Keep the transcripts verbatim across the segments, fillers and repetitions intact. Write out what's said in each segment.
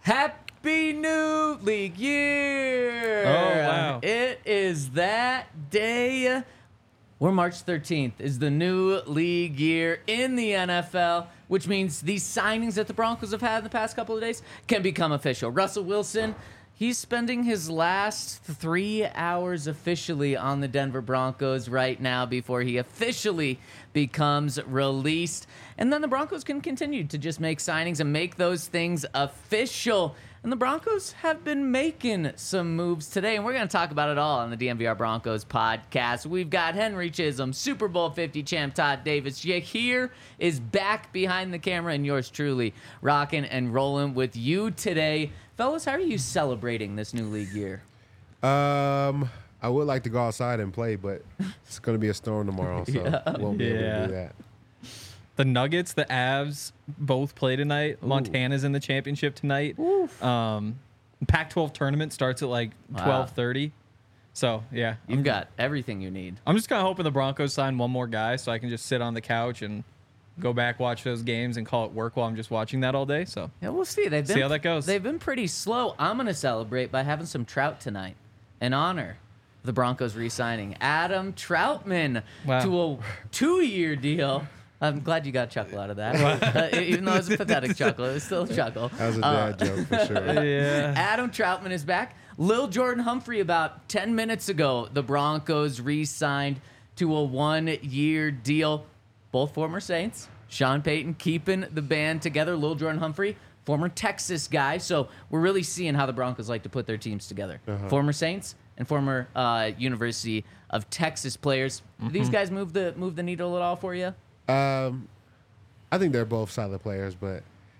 Happy New League Year! Oh, wow. It is that day where March thirteenth is the new league year in the N F L, which means these signings that the Broncos have had in the past couple of days can become official. Russell Wilson, he's spending his last three hours officially on the Denver Broncos right now before he officially becomes released. And then the Broncos can continue to just make signings and make those things official. And the Broncos have been making some moves today, and we're going to talk about it all on the D N V R Broncos podcast. We've got Henry Chisholm, Super Bowl fifty champ Todd Davis. Here is back behind the camera, and yours truly, rocking and rolling with you today. Fellas, how are you celebrating this new league year? Um, I would like to go outside and play, but it's going to be a storm tomorrow, so Yeah. won't be able Yeah. to do that. The Nuggets, the Avs, both play tonight. Ooh. Montana's in the championship tonight. Um, Pac twelve tournament starts at like Wow. twelve thirty. So, yeah. You've I'm, got everything you need. I'm just kind of hoping the Broncos sign one more guy so I can just sit on the couch and go back, watch those games, and call it work while I'm just watching that all day. So, Yeah, we'll see. They've been, See how that goes. They've been pretty slow. I'm going to celebrate by having some trout tonight in honor of the Broncos re-signing Adam Troutman Wow. to a two-year deal. I'm glad you got a chuckle out of that. Uh, even though it was a pathetic chuckle, it was still a chuckle. That was a Uh, dad joke for sure. yeah. Adam Troutman is back. Lil Jordan Humphrey, about ten minutes ago, the Broncos re-signed to a one-year deal. Both former Saints. Sean Payton keeping the band together. Lil Jordan Humphrey, former Texas guy. So we're really seeing how the Broncos like to put their teams together. Uh-huh. Former Saints and former uh, University of Texas players. Do these guys move the move the needle at all for you? Um, I think they're both solid players, but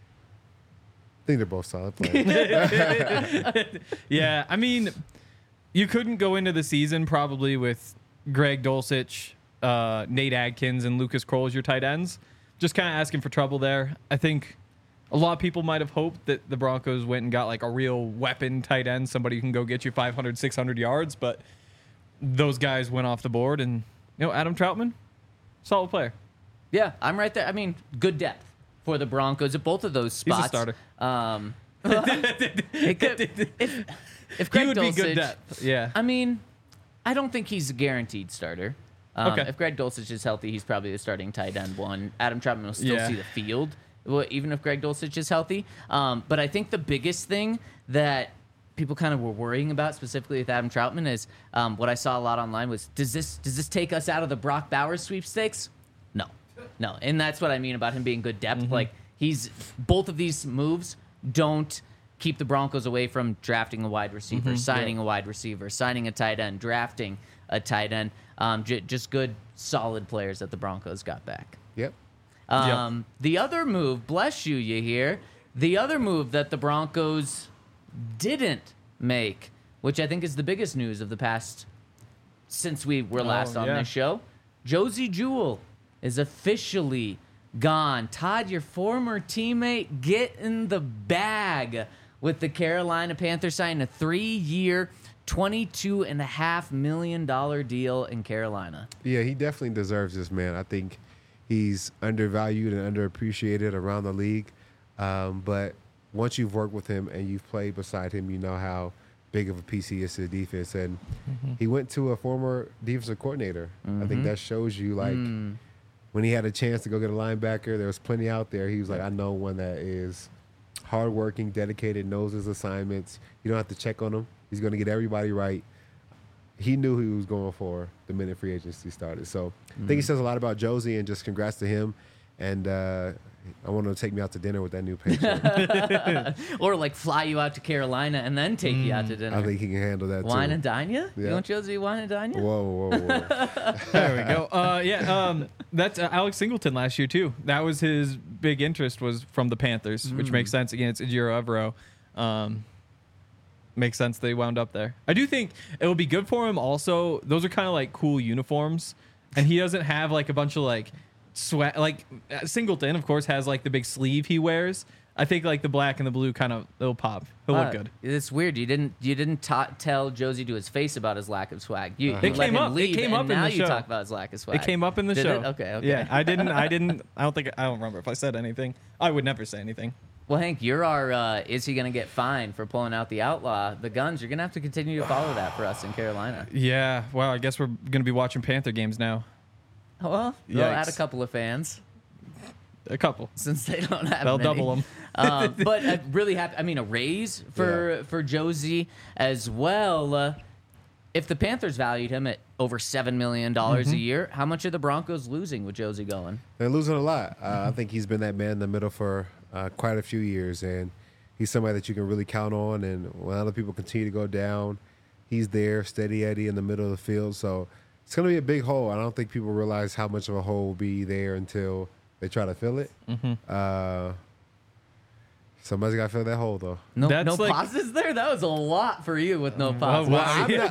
I think they're both solid players. Yeah, I mean, you couldn't go into the season probably with Greg Dulcich, uh, Nate Adkins, and Lucas Kroll as your tight ends. Just kind of asking for trouble there. I think a lot of people might have hoped that the Broncos went and got like a real weapon tight end, somebody who can go get you five hundred, six hundred yards, but those guys went off the board. And, you know, Adam Troutman, solid player. Yeah, I'm right there. I mean, good depth for the Broncos at both of those He's a spots. starter. Um, it could, if, if Greg He would be Dulcich, good depth. Yeah. I mean, I don't think he's a guaranteed starter. Um, Okay. If Greg Dulcich is healthy, he's probably the starting tight end one. Adam Troutman will still Yeah. see the field, well, even if Greg Dulcich is healthy. Um, but I think the biggest thing that people kind of were worrying about, specifically with Adam Troutman, is um, what I saw a lot online was, does this does this take us out of the Brock Bowers sweepstakes? No, no, and that's what I mean about him being good depth. Mm-hmm. Like he's both of these moves don't keep the Broncos away from drafting a wide receiver, Mm-hmm. signing a wide receiver, signing a tight end, drafting a tight end. Um, j- just good, solid players that the Broncos got back. Yep. Um, The other move, bless you, you hear, the other move that the Broncos didn't make, which I think is the biggest news of the past since we were last Oh, on yeah. this show, Josie Jewell is officially gone. Todd, your former teammate, get in the bag with the Carolina Panthers, signing a three-year, twenty-two point five million dollars deal in Carolina. Yeah, he definitely deserves this, man. I think he's undervalued and underappreciated around the league. Um, but once you've worked with him and you've played beside him, you know how big of a piece he is to the defense. And he went to a former defensive coordinator. I think that shows you, like, when he had a chance to go get a linebacker, there was plenty out there. He was like, I know one that is hardworking, dedicated, knows his assignments. You don't have to check on him. He's going to get everybody right. He knew who he was going for the minute free agency started. So I think he says a lot about Josie, and just congrats to him. And uh, I want him to take me out to dinner with that new paycheck. Or like fly you out to Carolina and then take you out to dinner. I think he can handle that Wine too. and dine you? You Yeah. want Josie wine and dine you? Whoa, whoa, whoa. There we go. Uh, yeah, um, that's uh, Alex Singleton last year too. That was his big interest, was from the Panthers, which makes sense. Again, it's Ejiro Evero. Um, makes sense they wound up there. I do think it will be good for him. Also, those are kind of like cool uniforms, and he doesn't have like a bunch of like sweat. Like uh, Singleton, of course, has like the big sleeve he wears. I think like the black and the blue kind of it'll pop. He'll Uh, look good. It's weird. You didn't you didn't ta- tell Josie to his face about his lack of swag. You, you It let came him up- it leave, came and up in now the you show. talk about his lack of swag. It came up in the Did show. it? Okay, okay. Yeah, I didn't. I didn't. I don't think. I don't remember if I said anything. I would never say anything. Well, Hank, you're our, uh, is he going to get fined for pulling out the outlaw, the guns? You're going to have to continue to follow that for us in Carolina. Yeah, well, I guess we're going to be watching Panther games now. Well, they'll add a Yikes. couple of fans A couple. since they don't have They'll many. double them. um, but I'm really happy. I mean, a raise for, Yeah. for Josie as well. Uh, if the Panthers valued him at over seven million dollars Mm-hmm. a year, how much are the Broncos losing with Josie going? They're losing a lot. Uh, I think he's been that man in the middle for uh, quite a few years, and he's somebody that you can really count on. And when other people continue to go down, he's there, steady Eddie in the middle of the field. So it's going to be a big hole. I don't think people realize how much of a hole will be there until they try to fill it. Mm-hmm. Uh, somebody's got to fill that hole, though. No, That's no like- pauses there? That was a lot for you with no Oh, pauses. Well, wow. I'm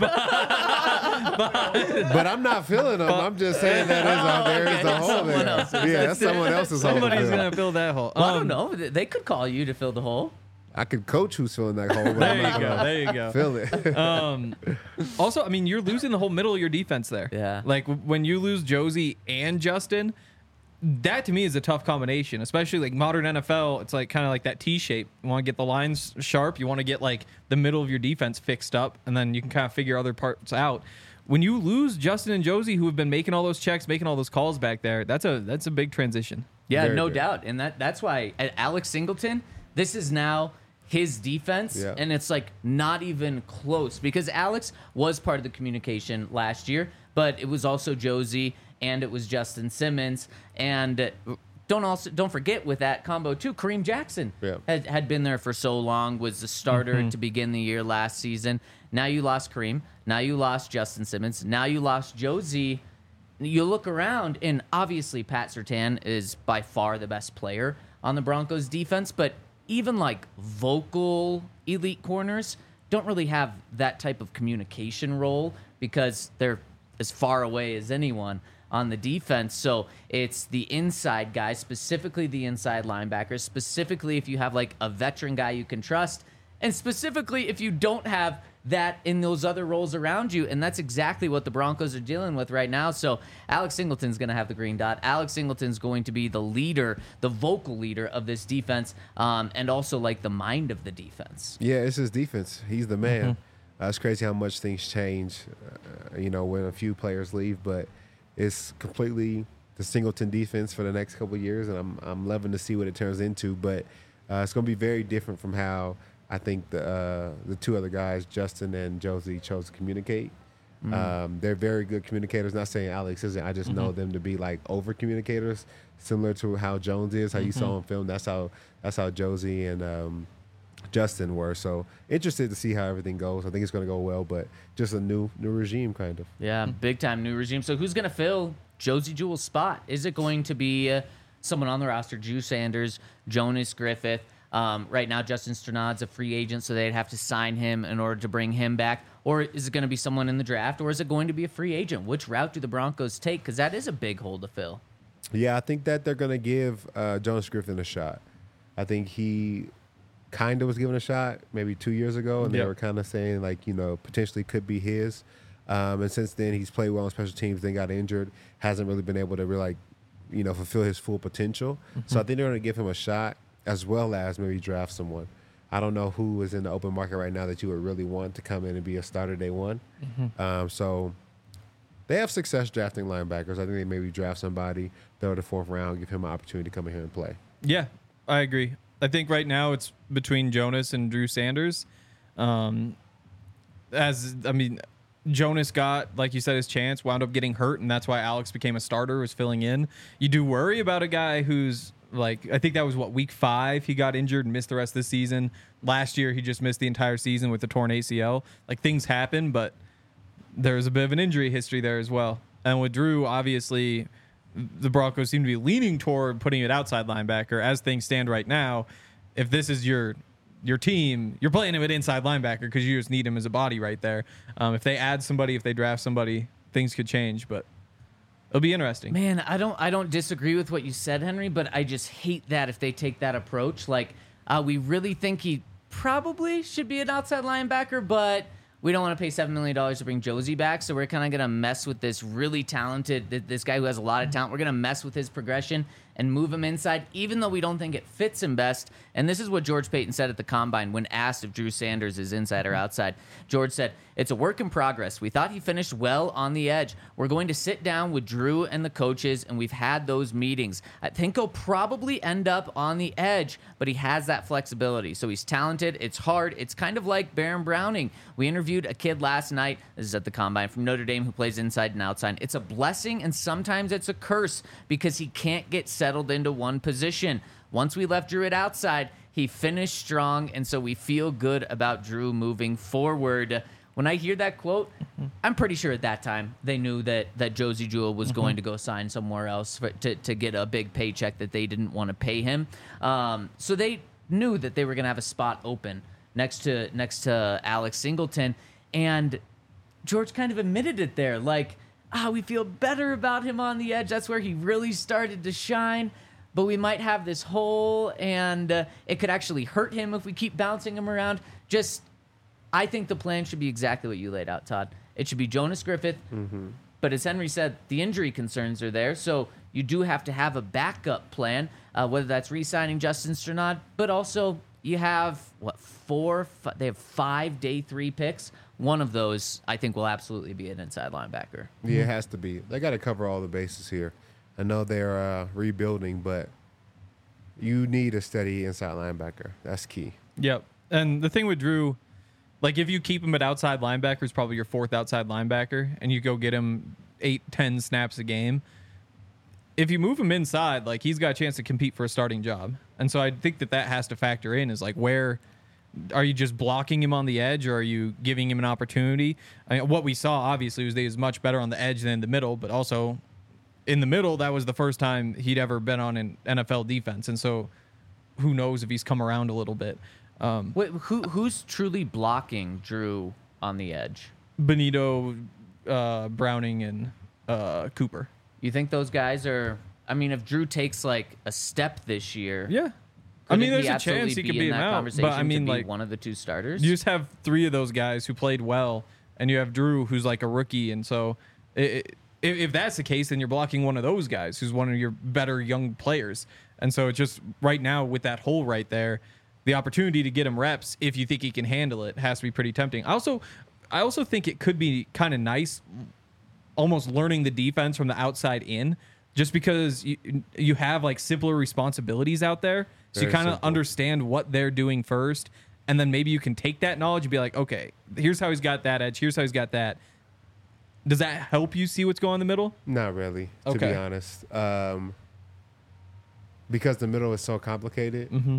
not, but I'm not feeling them. I'm just saying that is a, there is Okay, a hole someone there. else's. Yeah, that's someone else's hole. to Somebody's fill. going to fill that hole. Well, I Um, don't know. They could call you to fill the hole. I could coach who's filling that hole, but There I'm you not go. gonna There you go. fill it. Um, also, I mean, you're losing the whole middle of your defense there. Yeah. Like w- when you lose Josie and Justin, that to me is a tough combination, especially like modern N F L. It's like kind of like that T shape. You want to get the lines sharp. You want to get like the middle of your defense fixed up, and then you can kind of figure other parts out. When you lose Justin and Josie, who have been making all those checks, making all those calls back there, that's a that's a big transition. Yeah, Very no good. doubt. And that that's why uh, Alex Singleton, this is now his defense, Yeah. and it's like not even close because Alex was part of the communication last year, but it was also Josie and it was Justin Simmons. And uh, don't also don't forget with that combo too, Kareem Jackson Yeah. had, had been there for so long, was the starter to begin the year last season. Now you lost Kareem. Now you lost Justin Simmons. Now you lost Josie. You look around, and obviously Pat Surtain is by far the best player on the Broncos defense, but even like vocal elite corners don't really have that type of communication role because they're as far away as anyone on the defense. So it's the inside guys, specifically the inside linebackers, specifically if you have like a veteran guy you can trust, and specifically if you don't have that in those other roles around you. And that's exactly what the Broncos are dealing with right now. So Alex Singleton's going to have the green dot. Alex Singleton's going to be the leader, the vocal leader of this defense, um, and also like the mind of the defense. Yeah, it's his defense. He's the man. Mm-hmm. Uh, it's crazy how much things change, uh, you know, when a few players leave, but it's completely the Singleton defense for the next couple of years, and I'm I'm loving to see what it turns into. But uh, it's going to be very different from how I think the uh, the two other guys, Justin and Josie, chose to communicate. Um, they're very good communicators. Not saying Alex isn't. I just know them to be like over communicators, similar to how Jones is. How you saw him film. That's how that's how Josie and um, Justin were. So interested to see how everything goes. I think it's going to go well, but just a new new regime kind of. Yeah, big time new regime. So who's going to fill Josie Jewell's spot? Is it going to be uh, someone on the roster, Drew Sanders, Jonas Griffith? Um, right now, Justin Sternad's a free agent, so they'd have to sign him in order to bring him back. Or is it going to be someone in the draft, or is it going to be a free agent? Which route do the Broncos take? Because that is a big hole to fill. Yeah, I think that they're going to give uh, Jonas Griffin a shot. I think he kind of was given a shot maybe two years ago, and they Yep. were kind of saying, like, you know, potentially could be his. Um, and since then, he's played well on special teams, then got injured, hasn't really been able to really, like, you know, fulfill his full potential. So I think they're going to give him a shot, as well as maybe draft someone. I don't know who is in the open market right now that you would really want to come in and be a starter day one. Um, so they have success drafting linebackers. I think they maybe draft somebody, third or fourth round, give him an opportunity to come in here and play. Yeah, I agree. I think right now it's between Jonas and Drew Sanders. Um, as I mean, Jonas got, like you said, his chance, wound up getting hurt, and that's why Alex became a starter, was filling in. You do worry about a guy who's like, I think that was what, week five he got injured and missed the rest of the season. Last year he just missed the entire season with the torn A C L. Like, things happen, but there's a bit of an injury history there as well. And with Drew, obviously, the Broncos seem to be leaning toward putting it outside linebacker. As things stand right now, if this is your your team, you're playing him at inside linebacker because you just need him as a body right there. Um, if they add somebody, if they draft somebody, things could change, but it'll be interesting. Man, I don't I don't disagree with what you said, Henry, but I just hate that if they take that approach. Like, uh, we really think he probably should be an outside linebacker, but we don't want to pay seven million dollars to bring Josie back, so we're kind of going to mess with this really talented, th- this guy who has a lot of talent. We're going to mess with his progression and move him inside, even though we don't think it fits him best. And this is what George Payton said at the Combine when asked if Drew Sanders is inside or outside. George said, "It's a work in progress. We thought he finished well on the edge. We're going to sit down with Drew and the coaches, and we've had those meetings. I think he'll probably end up on the edge, but he has that flexibility. So he's talented. It's hard. It's kind of like Baron Browning. We interviewed a kid last night, this is at the Combine, from Notre Dame who plays inside and outside. It's a blessing, and sometimes it's a curse because he can't get settled into one position. Once we left Drew at outside, he finished strong, and so we feel good about Drew moving forward." When I hear that quote, mm-hmm. I'm pretty sure at that time they knew that that Josie Jewell was mm-hmm. going to go sign somewhere else for, to, to get a big paycheck that they didn't want to pay him. Um, so they knew that they were going to have a spot open next to next to Alex Singleton, and George kind of admitted it there, like, ah, we feel better about him on the edge. That's where he really started to shine. But we might have this hole, and uh, it could actually hurt him if we keep bouncing him around. Just, I think the plan should be exactly what you laid out, Todd. It should be Jonas Griffith. Mm-hmm. But as Henry said, the injury concerns are there, so you do have to have a backup plan, uh, whether that's re-signing Justin Strnad, but also you have, what, four? F- they have five day three picks. One of those, I think, will absolutely be an inside linebacker. Yeah, it has to be. They got to cover all the bases here. I know they're uh, rebuilding, but you need a steady inside linebacker. That's key. Yep. And the thing with Drew, like if you keep him at outside linebacker, he's probably your fourth outside linebacker, and you go get him eight, ten snaps a game. If you move him inside, like he's got a chance to compete for a starting job. And so I think that that has to factor in is like where are you just blocking him on the edge, or are you giving him an opportunity? I mean, what we saw obviously was that he was much better on the edge than the middle, but also in the middle, that was the first time he'd ever been on an N F L defense. And so who knows if he's come around a little bit. Um, Wait, who who's truly blocking Drew on the edge? Benito, uh, Browning, and uh, Cooper. You think those guys are... I mean, if Drew takes like a step this year... Yeah. I mean, there's he a chance he be could be in that out, conversation but I mean, to be like one of the two starters. You just have three of those guys who played well, and you have Drew, who's like a rookie, and so it, it, if, if that's the case, then you're blocking one of those guys, who's one of your better young players, and so it's just right now with that hole right there, the opportunity to get him reps, if you think he can handle it, has to be pretty tempting. I also, I also think it could be kind of nice, almost learning the defense from the outside in, just because you you have like simpler responsibilities out there. So Very you kind of understand what they're doing first, and then maybe you can take that knowledge and be like, okay, here's how he's got that edge, here's how he's got that. Does that help you see what's going in the middle? Not really, to okay. be honest. Um, because the middle is so complicated, mm-hmm.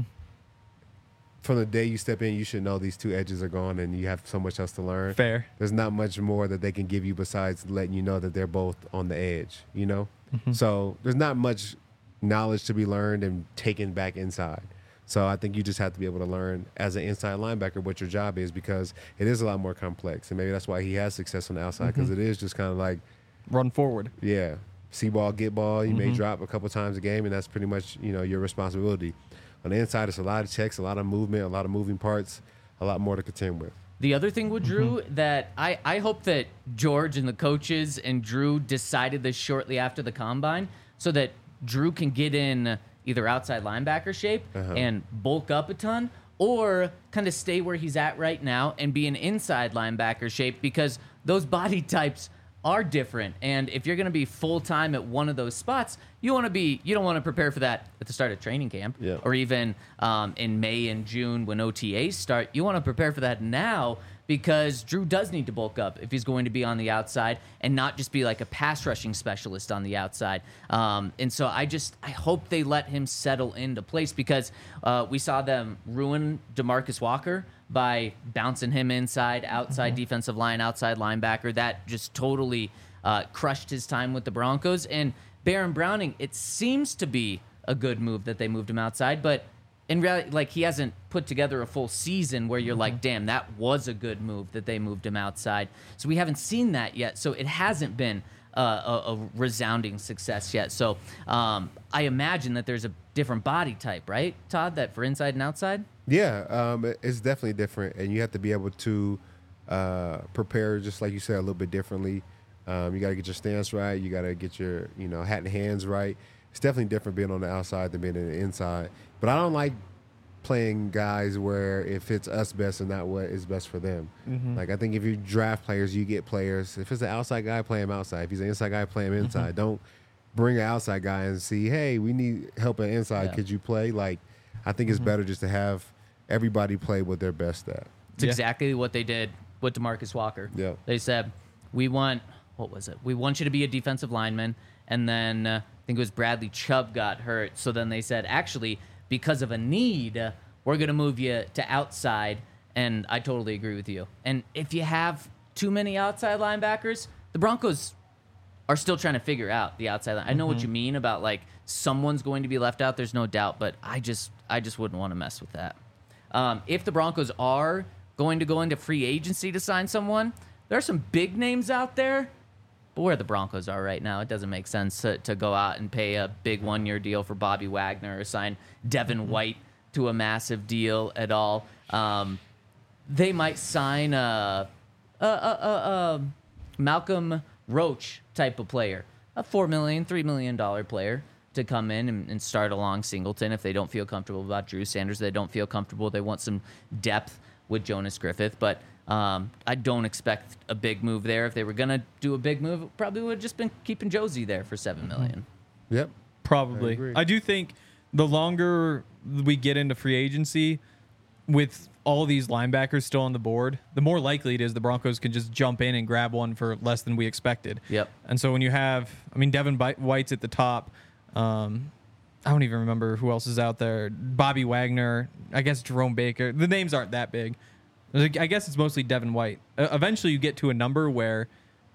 from the day you step in, you should know these two edges are gone, and you have so much else to learn. Fair. There's not much more that they can give you besides letting you know that they're both on the edge, you know? Mm-hmm. So there's not much knowledge to be learned and taken back inside. So I think you just have to be able to learn as an inside linebacker what your job is, because it is a lot more complex. And maybe that's why he has success on the outside, because mm-hmm. it is just kind of like run forward. Yeah. See ball, get ball. You mm-hmm. may drop a couple times a game, and that's pretty much, you know, your responsibility. On the inside, it's a lot of checks, a lot of movement, a lot of moving parts, a lot more to contend with. The other thing with Drew mm-hmm. that I, I hope that George and the coaches and Drew decided this shortly after the Combine, so that Drew can get in either outside linebacker shape uh-huh. and bulk up a ton, or kind of stay where he's at right now and be an inside linebacker shape, because those body types are different. And if you're going to be full-time at one of those spots, you want to be, you don't want to prepare for that at the start of training camp yeah. or even um, in May and June when O T As start. You want to prepare for that now, because Drew does need to bulk up if he's going to be on the outside and not just be like a pass rushing specialist on the outside. Um, and so I just, I hope they let him settle into place, because uh, we saw them ruin DeMarcus Walker by bouncing him inside, outside mm-hmm. defensive line, outside linebacker. That just totally uh, crushed his time with the Broncos. And Baron Browning, it seems to be a good move that they moved him outside, but in reality, like, he hasn't put together a full season where you're mm-hmm. like, damn, that was a good move that they moved him outside. So we haven't seen that yet. So it hasn't been uh, a, a resounding success yet. So um, I imagine that there's a different body type, right, Todd, that for inside and outside? Yeah, um, it's definitely different, and you have to be able to uh, prepare, just like you said, a little bit differently. Um, you got to get your stance right. You got to get your, you know, hat and hands right. it's definitely different being on the outside than being on the inside. But I don't like playing guys where it fits us best and not what is best for them. Mm-hmm. Like I think if you draft players, you get players. If it's an outside guy, play him outside. If he's an inside guy, play him inside. Mm-hmm. Don't bring an outside guy and see, hey, we need help on inside. Yeah. Could you play? Like I think it's mm-hmm. better just to have everybody play what they're best at. It's yeah. exactly what they did with DeMarcus Walker. Yeah. They said, we want, what was it? We want you to be a defensive lineman. And then uh, I think it was Bradley Chubb got hurt. So then they said, actually, because of a need, uh, we're going to move you to outside. And I totally agree with you. And if you have too many outside linebackers, the Broncos are still trying to figure out the outside line. I know mm-hmm. what you mean about like someone's going to be left out. There's no doubt, but I just I just wouldn't want to mess with that. Um, if the Broncos are going to go into free agency to sign someone, there are some big names out there. But where the Broncos are right now, it doesn't make sense to, to go out and pay a big one-year deal for Bobby Wagner or sign Devin mm-hmm. White to a massive deal at all. Um, they might sign a, a, a, a, a Malcolm Roach type of player, a four million dollars, three million dollars player to come in and, and start along Singleton if they don't feel comfortable about Drew Sanders. They don't feel comfortable. They want some depth with Jonas Griffith. But um, I don't expect a big move there. If they were going to do a big move, it probably would have just been keeping Josie there for seven million dollars. Yep. Probably. I, I do think the longer we get into free agency with all these linebackers still on the board, the more likely it is the Broncos can just jump in and grab one for less than we expected. Yep. And so when you have, I mean, Devin White's at the top. Um, I don't even remember who else is out there. Bobby Wagner, I guess Jerome Baker. The names aren't that big. I guess it's mostly Devin White. Uh, eventually you get to a number where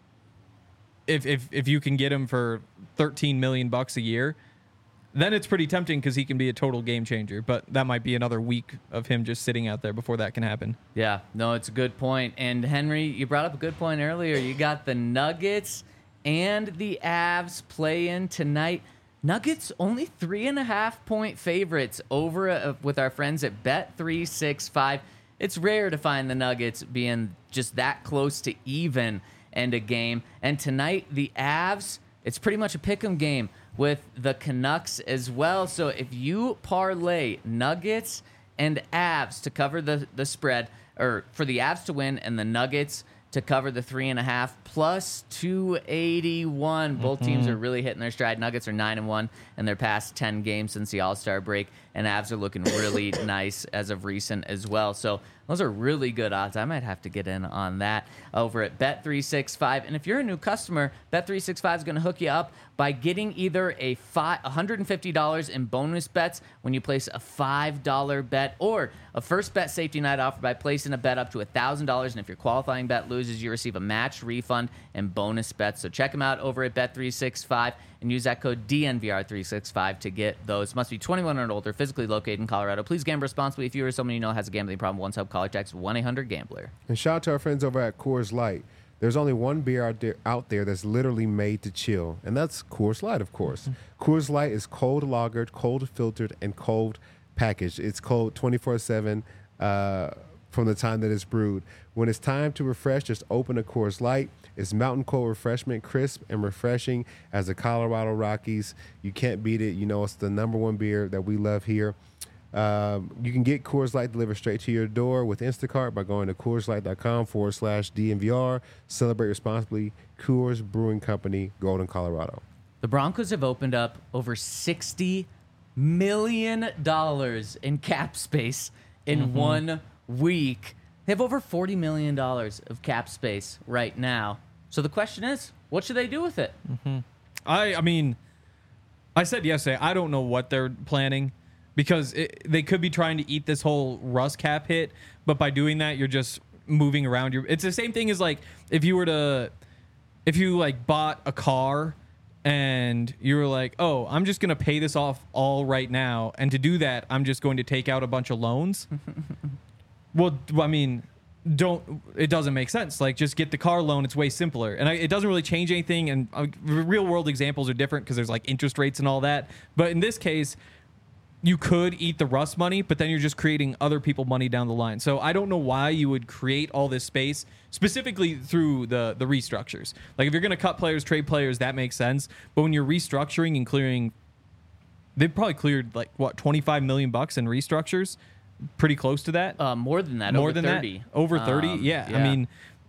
if if if you can get him for thirteen million bucks a year, then it's pretty tempting because he can be a total game changer. But that might be another week of him just sitting out there before that can happen. Yeah, no, it's a good point. And Henry, you brought up a good point earlier. You got the Nuggets and the Avs play in tonight. Nuggets only three and a half point favorites over uh, with our friends at Bet three sixty-five. It's rare to find the Nuggets being just that close to even end a game. And tonight, the Avs, it's pretty much a pick'em game with the Canucks as well. So if you parlay Nuggets and Avs to cover the, the spread, or for the Avs to win and the Nuggets to cover the three and a half, plus two eighty-one. Both mm-hmm. teams are really hitting their stride. Nuggets are nine and one in their past ten games since the All-Star break, and Avs are looking really nice as of recent as well. So those are really good odds. I might have to get in on that over at Bet three sixty-five. And if you're a new customer, Bet three sixty-five is going to hook you up by getting either a five, one hundred fifty dollars in bonus bets when you place a five dollar bet, or a first bet safety night offer by placing a bet up to one thousand dollars. And if your qualifying bet loses, you receive a match refund and bonus bets. So check them out over at Bet three sixty-five and use that code D N V R three sixty-five to get those. Must be twenty-one and older, physically located in Colorado. Please gamble responsibly. If you or someone you know has a gambling problem, once help call or text one eight hundred gambler. And shout out to our friends over at Coors Light. There's only one beer out there, out there that's literally made to chill, and that's Coors Light, of course. Mm-hmm. Coors Light is cold lagered, cold filtered, and cold packaged. It's cold twenty-four seven uh, from the time that it's brewed. When it's time to refresh, just open a Coors Light. It's mountain cold refreshment, crisp and refreshing as the Colorado Rockies. You can't beat it. You know, it's the number one beer that we love here. Um, you can get Coors Light delivered straight to your door with Instacart by going to CoorsLight.com forward slash DNVR. Celebrate responsibly. Coors Brewing Company, Golden, Colorado. The Broncos have opened up over sixty million dollars in cap space in mm-hmm. one week. They have over forty million dollars of cap space right now. So the question is, what should they do with it? Mm-hmm. I, I mean, I said yesterday, I don't know what they're planning. Because it, they could be trying to eat this whole Russ cap hit, but by doing that, you're just moving around your. It's the same thing as like if you were to, if you like bought a car, and you were like, oh, I'm just gonna pay this off all right now, and to do that, I'm just going to take out a bunch of loans. Well, I mean, don't. It doesn't make sense. Like, just get the car loan. It's way simpler, and I, it doesn't really change anything. And uh, real world examples are different because there's like interest rates and all that. But in this case, you could eat the Russ money, but then you're just creating other people money down the line. So I don't know why you would create all this space specifically through the the restructures. Like if you're going to cut players, trade players, that makes sense. But when you're restructuring and clearing they probably cleared like what twenty-five million bucks in restructures, pretty close to that. Uh, more than that. More over than thirty. that, over thirty. Um, yeah. I mean,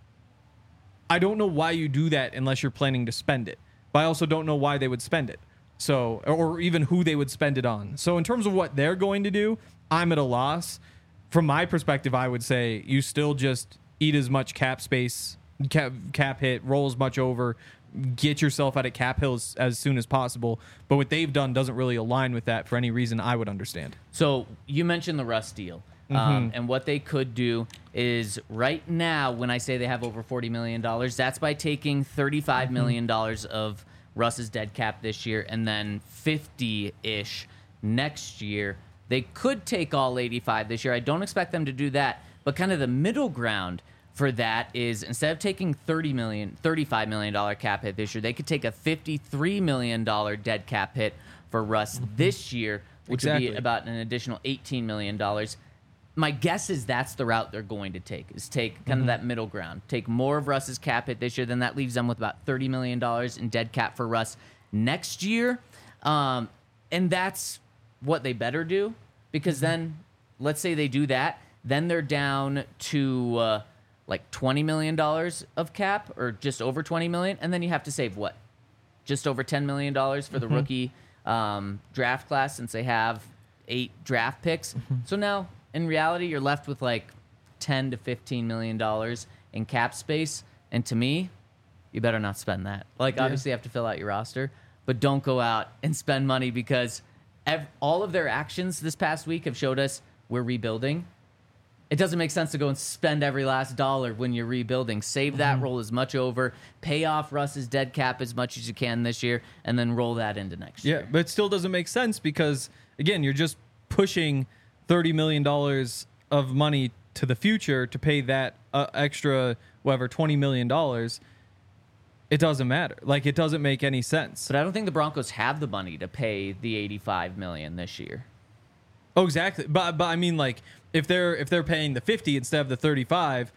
I don't know why you do that unless you're planning to spend it. But I also don't know why they would spend it. So, or even who they would spend it on. So, in terms of what they're going to do, I'm at a loss. From my perspective, I would say you still just eat as much cap space, cap, cap hit, roll as much over, get yourself out of cap hills as soon as possible. But what they've done doesn't really align with that for any reason I would understand. So you mentioned the Russ deal. Um, Mm-hmm. and what they could do is right now, when I say they have over forty million dollars, that's by taking thirty-five million dollars of Russ's dead cap this year and then fifty-ish next year. They could take all eighty-five this year. I don't expect them to do that. But kind of the middle ground for that is instead of taking thirty million dollars, thirty-five million dollars cap hit this year, they could take a fifty-three million dollars dead cap hit for Russ this year, which would Exactly. be about an additional eighteen million dollars. My guess is that's the route they're going to take, is take kind Mm-hmm. of that middle ground. Take more of Russ's cap hit this year, then that leaves them with about thirty million dollars in dead cap for Russ next year. Um, and that's what they better do, because Mm-hmm. then, let's say they do that, then they're down to uh, like twenty million dollars of cap, or just over twenty million dollars, and then you have to save what? Just over ten million dollars for the Mm-hmm. rookie um, draft class, since they have eight draft picks. Mm-hmm. So now, in reality, you're left with like ten to fifteen million dollars in cap space. And to me, you better not spend that. Like, Yeah. obviously, you have to fill out your roster, but don't go out and spend money, because ev- all of their actions this past week have showed us we're rebuilding. It doesn't make sense to go and spend every last dollar when you're rebuilding. Save that, roll as much over, pay off Russ's dead cap as much as you can this year, and then roll that into next Yeah, year. but it still doesn't make sense because, again, you're just pushing thirty million dollars of money to the future to pay that uh, extra, whatever, twenty million dollars. It doesn't matter. Like, it doesn't make any sense. But I don't think the Broncos have the money to pay the eighty-five million dollars this year. Oh, exactly. But but I mean, like, if they're if they're paying the fifty instead of the thirty-five,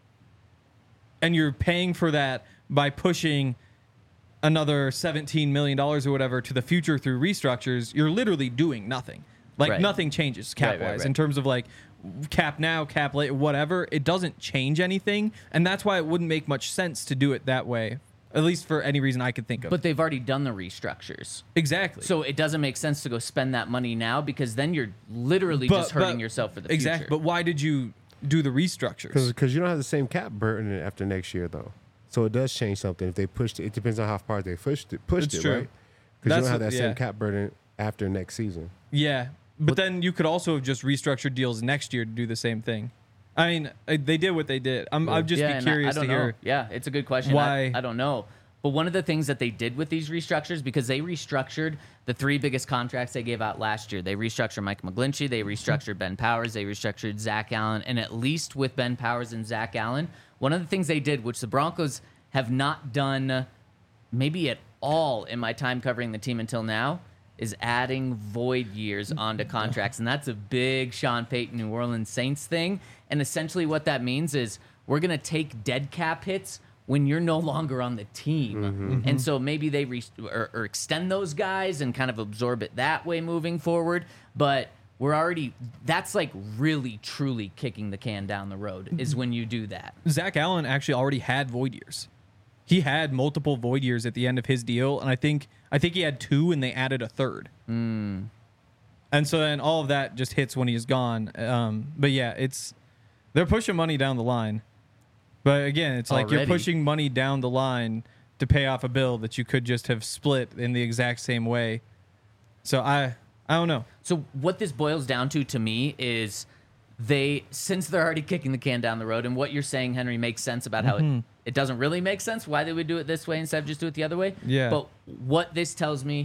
and you're paying for that by pushing another seventeen million dollars or whatever to the future through restructures, you're literally doing nothing. Like, Right. nothing changes cap-wise. Right, right, right. In terms of, like, cap now, cap later, whatever. It doesn't change anything, and that's why it wouldn't make much sense to do it that way, at least for any reason I could think of. But they've already done the restructures. exactly. So it doesn't make sense to go spend that money now, because then you're literally just hurting yourself for the exactly. future. But why did you do the restructures? Because you don't have the same cap burden after next year, though. So it does change something. If they pushed it, it depends on how far they pushed it, pushed It's it true. right? Because you That's don't have what- that yeah. same cap burden after next season. Yeah, but then you could also have just restructured deals next year to do the same thing. I mean, uh, they did what they did. I'm, I'd just yeah, be and I- curious I, don't to hear. know. Yeah, it's a good question. why- I, I don't know. But one of the things that they did with these restructures, because they restructured the three biggest contracts they gave out last year. They restructured Mike McGlinchey, they restructured Ben Powers, they restructured Zach Allen, and at least with Ben Powers and Zach Allen, one of the things they did, which the Broncos have not done maybe at all in my time covering the team until now, is adding void years onto contracts. And that's a big Sean Payton New Orleans Saints thing. And essentially what that means is we're going to take dead cap hits when you're no longer on the team. And so maybe they re- or, or extend those guys and kind of absorb it that way moving forward. But we're already, that's like really, truly kicking the can down the road is when you do that. Zach Allen actually already had void years. He had multiple void years at the end of his deal, and I think I think he had two, and they added a third. Mm. And so then all of that just hits when he's gone. Um, but yeah, it's they're pushing money down the line. But again, it's like Already. you're pushing money down the line to pay off a bill that you could just have split in the exact same way. So I I don't know. So what this boils down to to me is they, since they're already kicking the can down the road, and what you're saying, Henry, makes sense about how Mm-hmm. it, it doesn't really make sense why they would do it this way instead of just do it the other way. Yeah. But what this tells me,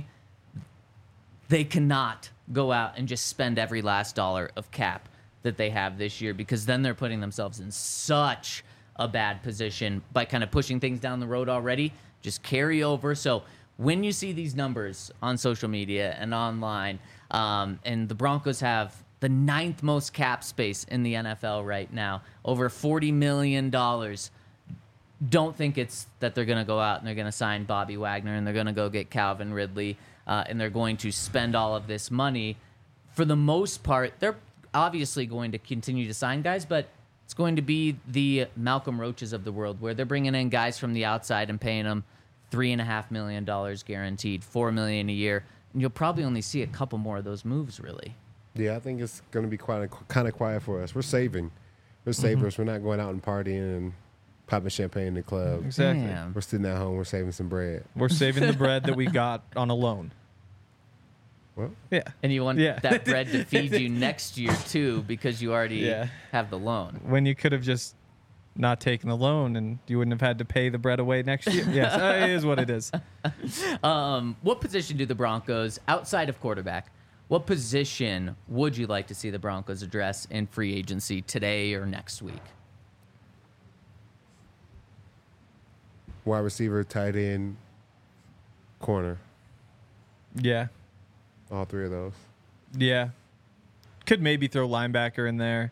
they cannot go out and just spend every last dollar of cap that they have this year, because then they're putting themselves in such a bad position by kind of pushing things down the road already. Just carry over. So when you see these numbers on social media and online, um, and the Broncos have the ninth most cap space in the N F L right now, over forty million dollars, don't think it's that they're going to go out and they're going to sign Bobby Wagner and they're going to go get Calvin Ridley. uh, and they're going to spend all of this money. For the most part, they're obviously going to continue to sign guys, but it's going to be the Malcolm Roaches of the world, where they're bringing in guys from the outside and paying them three and a half million dollars guaranteed, four million a year, and you'll probably only see a couple more of those moves, really. Yeah, I think it's going to be quite kind of quiet for us. We're saving. We're savers. Mm-hmm. We're not going out and partying and popping champagne in the club. Exactly. Damn. We're sitting at home. We're saving some bread. We're saving the bread that we got on a loan. Well, Yeah. And you want Yeah. that bread to feed you next year, too, because you already Yeah. have the loan. When you could have just not taken the loan and you wouldn't have had to pay the bread away next year. Yes, uh, it is what it is. Um, what position do the Broncos, outside of quarterback, what position would you like to see the Broncos address in free agency today or next week? wide receiver, tight end, corner. Yeah. All three of those. Yeah. Could maybe throw linebacker in there,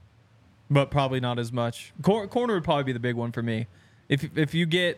but probably not as much. Cor- corner would probably be the big one for me. If if you get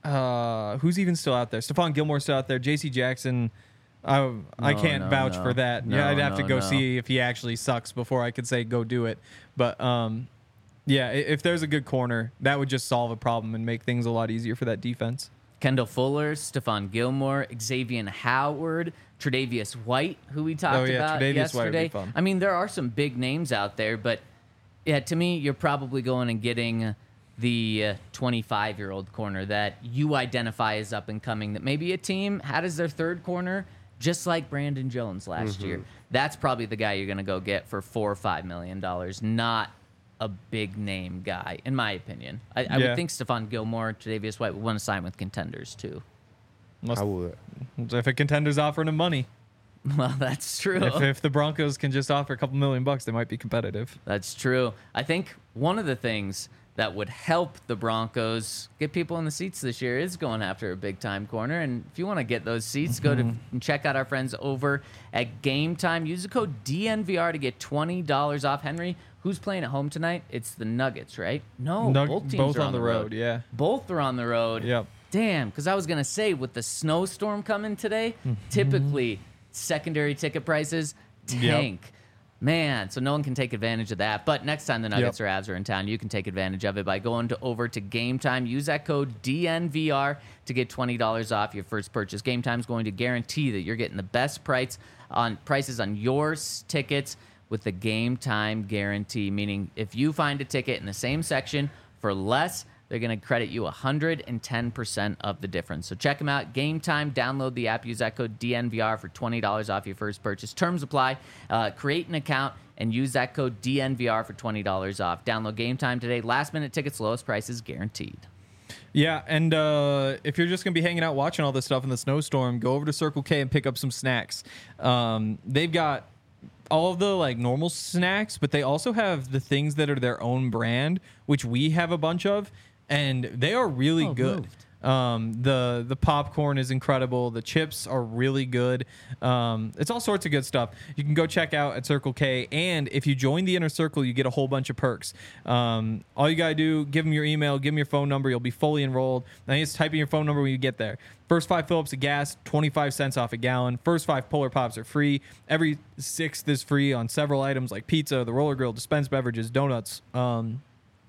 uh, who's even still out there? Stephon Gilmore's still out there. J C Jackson. I I No, can't no, vouch no. for that. No, yeah, I'd have no, to go no. see if he actually sucks before I could say go do it. But um, yeah, i- if there's a good corner, that would just solve a problem and make things a lot easier for that defense. Kendall Fuller, Stephon Gilmore, Xavier Howard, Tre'Davious White, who we talked Oh, yeah, about Tre'Davious White would be yesterday. fun. I mean, there are some big names out there, but yeah, to me, you're probably going and getting the twenty-five-year-old corner that you identify as up and coming, that maybe a team had as their third corner, just like Brandon Jones last Mm-hmm. year. That's probably the guy you're going to go get for four or five million dollars, not a big name guy, in my opinion. I, I Yeah. would think Stephon Gilmore, Tre'Davious White would want to sign with contenders too. Unless, I would. if a contender's offering him money. Well, that's true. If, if the Broncos can just offer a couple million bucks, they might be competitive. That's true. I think one of the things that would help the Broncos get people in the seats this year is going after a big time corner. And if you want to get those seats, go to and check out our friends over at Game Time. Use the code D N V R to get twenty dollars off. Henry, who's playing at home tonight? It's the Nuggets, right? No, Nug- both teams both are on the road, yeah. Both are on the road. Yep. Damn, because I was going to say, with the snowstorm coming today, typically secondary ticket prices tank. Man, so no one can take advantage of that. But next time the Nuggets Yep. or Avs are in town, you can take advantage of it by going to over to Game Time. Use that code D N V R to get twenty dollars off your first purchase. Game Time is going to guarantee that you're getting the best price on prices on your s- tickets with the Game Time guarantee, meaning if you find a ticket in the same section for less, they're going to credit you one hundred ten percent of the difference. So check them out. Game Time. Download the app. Use that code D N V R for twenty dollars off your first purchase. Terms apply. Uh, create an account and use that code D N V R for twenty dollars off. Download Game Time today. Last minute tickets, lowest prices guaranteed. Yeah, and uh, if you're just going to be hanging out watching all this stuff in the snowstorm, go over to Circle K and pick up some snacks. Um, they've got all of the like normal snacks, but they also have the things that are their own brand, which we have a bunch of, and they are really Oh, good. moved. Um, the the popcorn is incredible. The chips are really good. Um, it's all sorts of good stuff. You can go check out at Circle K, and if you join the Inner Circle, you get a whole bunch of perks. Um, all you gotta do, give them your email, give them your phone number. You'll be fully enrolled. Now you just type in your phone number when you get there. First five fill-ups of gas, twenty-five cents off a gallon. First five Polar Pops are free. Every sixth is free on several items like pizza, the roller grill, dispensed beverages, donuts. Um,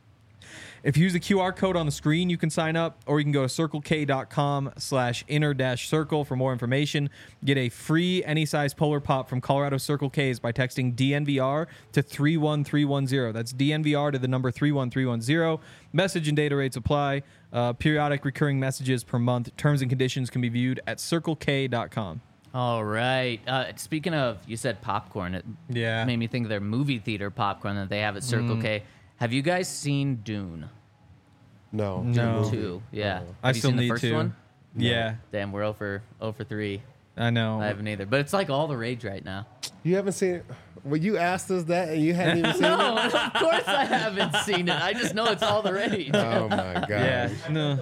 If you use the Q R code on the screen, you can sign up, or you can go to circlek.com slash inner dash circle for more information. Get a free any size Polar Pop from Colorado Circle K's by texting D N V R to three one three one zero. That's D N V R to the number three one three one zero. Message and data rates apply. Uh, periodic recurring messages per month. Terms and conditions can be viewed at circle k dot com. All right. Uh, speaking of, you said popcorn. It Yeah. made me think of their movie theater popcorn that they have at Circle K. Have you guys seen Dune? No. No. Movie. Two. Yeah. I Have you still seen the need first to. one? Yeah, Damn, we're over over three. I know. I haven't either, but it's like all the rage right now. You haven't seen it? Well, you asked us that and you hadn't even seen No, it? of course I haven't seen it. I just know it's all the rage. Oh, my God. Yeah, no.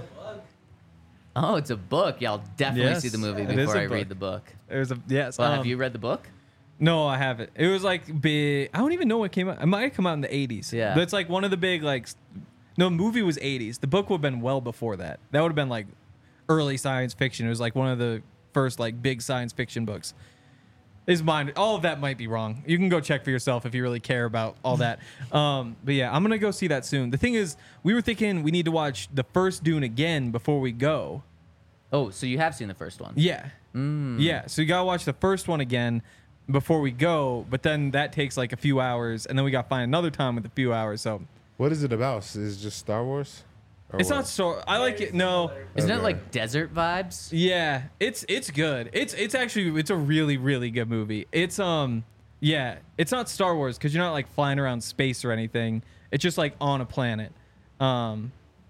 Oh, it's a book. Yeah, I'll definitely Yes, see the movie it is before a I read book. the book. There's a yes. Well, um, have you read the book? No, I haven't. It was like big. I don't even know what came out. It might have come out in the eighties. Yeah. But it's like one of the big like. s- No, movie was eighties. The book would have been well before that. That would have been like early science fiction. It was like one of the first like big science fiction books. Is mine. All of that might be wrong. You can go check for yourself if you really care about all that. Um, but yeah, I'm gonna go see that soon. The thing is, we were thinking we need to watch the first Dune again before we go. Oh, so you have seen the first one? Yeah, Mm. yeah. So you gotta watch the first one again before we go. But then that takes like a few hours, and then we gotta find another time with a few hours. So What is it about? Is it just Star Wars? Or it's what? not so. I like it. No. Isn't it Okay. like desert vibes? Yeah, it's it's good. It's it's actually it's a really really good movie. It's um yeah, it's not Star Wars because you're not like flying around space or anything. It's just like on a planet. Um,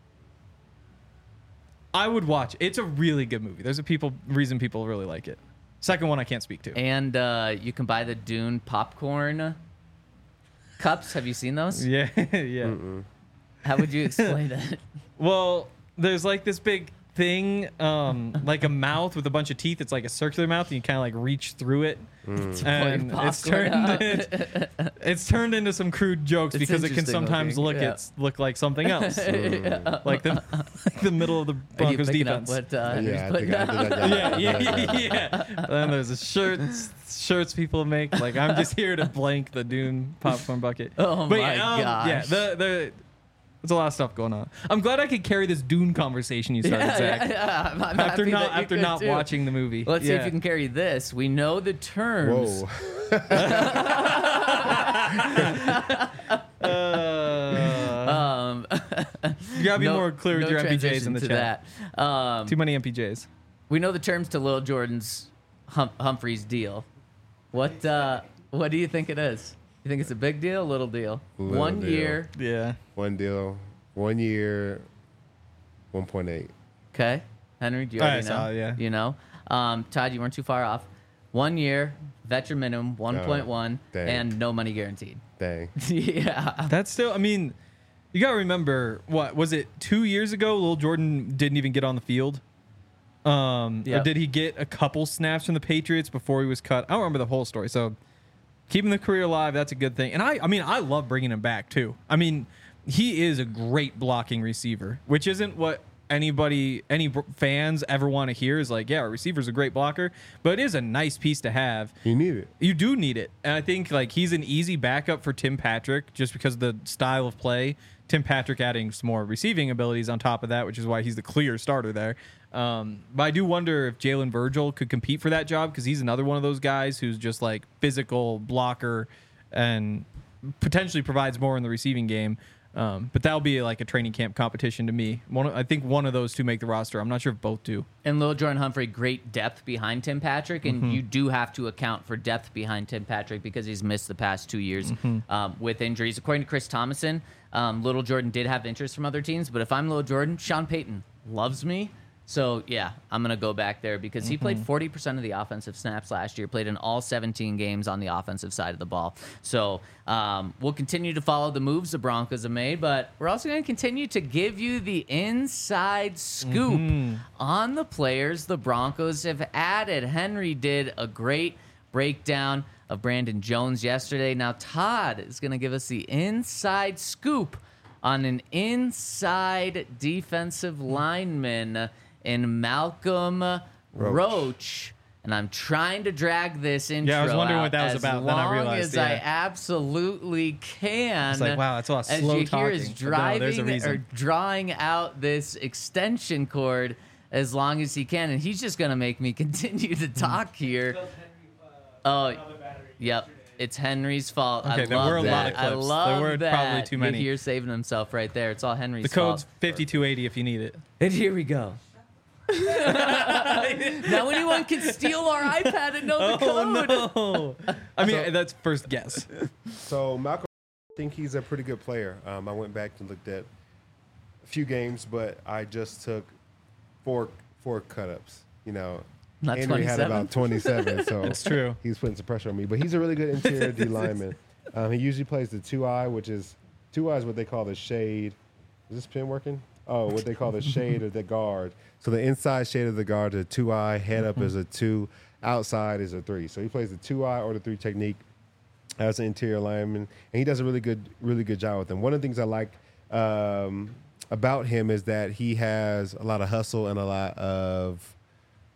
I would watch. It's a really good movie. There's a people reason people really like it. Second one I can't speak to. And uh, you can buy the Dune popcorn cups. Have you seen those? Yeah, yeah. Mm-mm. How would you explain it? Well, there's like this big thing, um, like a mouth with a bunch of teeth. It's like a circular mouth, and you kind of like reach through it, Mm. and Pour your it's popcorn turned out. it, it's turned into some crude jokes It's because it can interesting sometimes looking, look yeah. it's look like something else, Yeah. like the like the middle of the Are you Broncos picking defense. up what uh, Henry's Yeah, I putting think I down? did that. yeah, yeah, yeah, yeah. Then there's a shirts shirts people make. Like I'm just here to blank the Dune popcorn bucket. Oh but my yeah, um, gosh. yeah, the the. There's a lot of stuff going on. I'm glad I could carry this Dune conversation you started, Yeah, Zach. yeah, yeah. I'm, I'm After happy not that you after could not too. watching the movie. Let's see Yeah. if you can carry this. We know the terms. Whoa. Uh, Um, you gotta be no- more clear with no your M P Js in transition the to chat. That. Um, Too many M P Js. we know the terms to Lil Jordan's hum- Humphreys deal. What uh, what do you think it is? You think it's a big deal, little deal? Little One deal. year, Yeah. One deal, one year, one point eight. okay. Henry, do you I already know? saw it, yeah. You know. Um, Todd, you weren't too far off. One year, veteran minimum, one point one, dang. and no money guaranteed. Dang. Yeah. That's still. I mean, you gotta remember what was it? Two years ago, Lil Jordan didn't even get on the field. Um, or Yep. did he get a couple snaps from the Patriots before he was cut? I don't remember the whole story. So keeping the career alive, that's a good thing. And I, I mean, I love bringing him back too. I mean, he is a great blocking receiver, which isn't what anybody, any br- fans ever want to hear. Is like, yeah, our receiver's a great blocker, but it is a nice piece to have. You need it. You do need it. And I think like he's an easy backup for Tim Patrick just because of the style of play. Tim Patrick adding some more receiving abilities on top of that, which is why he's the clear starter there. Um, but I do wonder if Jalen Virgil could compete for that job because he's another one of those guys who's just like physical blocker and potentially provides more in the receiving game. Um, but that'll be like a training camp competition to me. One, I think one of those two make the roster. I'm not sure if both do. And Lil Jordan Humphrey, great depth behind Tim Patrick, and Mm-hmm. you do have to account for depth behind Tim Patrick because he's missed the past two years Mm-hmm. um, with injuries. According to Chris Thomason, um, Little Jordan did have interest from other teams, but if I'm Lil Jordan, Sean Payton loves me. So, yeah, I'm going to go back there because he played forty percent of the offensive snaps last year, played in all seventeen games on the offensive side of the ball. So, um, we'll continue to follow the moves the Broncos have made, but we're also going to continue to give you the inside scoop on the players the Broncos have added. Henry did a great breakdown of Brandon Jones yesterday. Now, Todd is going to give us the inside scoop on an inside defensive lineman in Malcolm Roach. Roach. And I'm trying to drag this intro Yeah, I was wondering out what that was as about, then I long realized, as I yeah. absolutely can. It's like, wow, that's a lot of As slow you hear is talking. But no, there's a driving or reason. drawing out this extension cord as long as he can, and he's just gonna make me continue to talk here. Oh, yep. It's Henry's fault. Okay, I there love were a that. lot of I clips. There love were that. probably too many. You're saving himself right there. It's all Henry's The code's fault. fifty-two eighty if you need it. And here we go. Now anyone can steal our iPad and know the code. Oh, no. I mean, that's first guess. So Malcolm, I think he's a pretty good player. Um, I went back and looked at a few games, but I just took four four cut-ups. You know, Not Henry had twenty-seven? about twenty-seven, so It's true. he's putting some pressure on me. But he's a really good interior D lineman. Um, he usually plays the two eye, which is two eye is what they call the shade. Is this pin working? Oh, what they call the shade of the guard. So the inside shade of the guard, the two eye, head up is a two, outside is a three. So he plays the two eye or the three technique as an interior lineman, and he does a really good, really good job with them. One of the things I like um, about him is that he has a lot of hustle and a lot of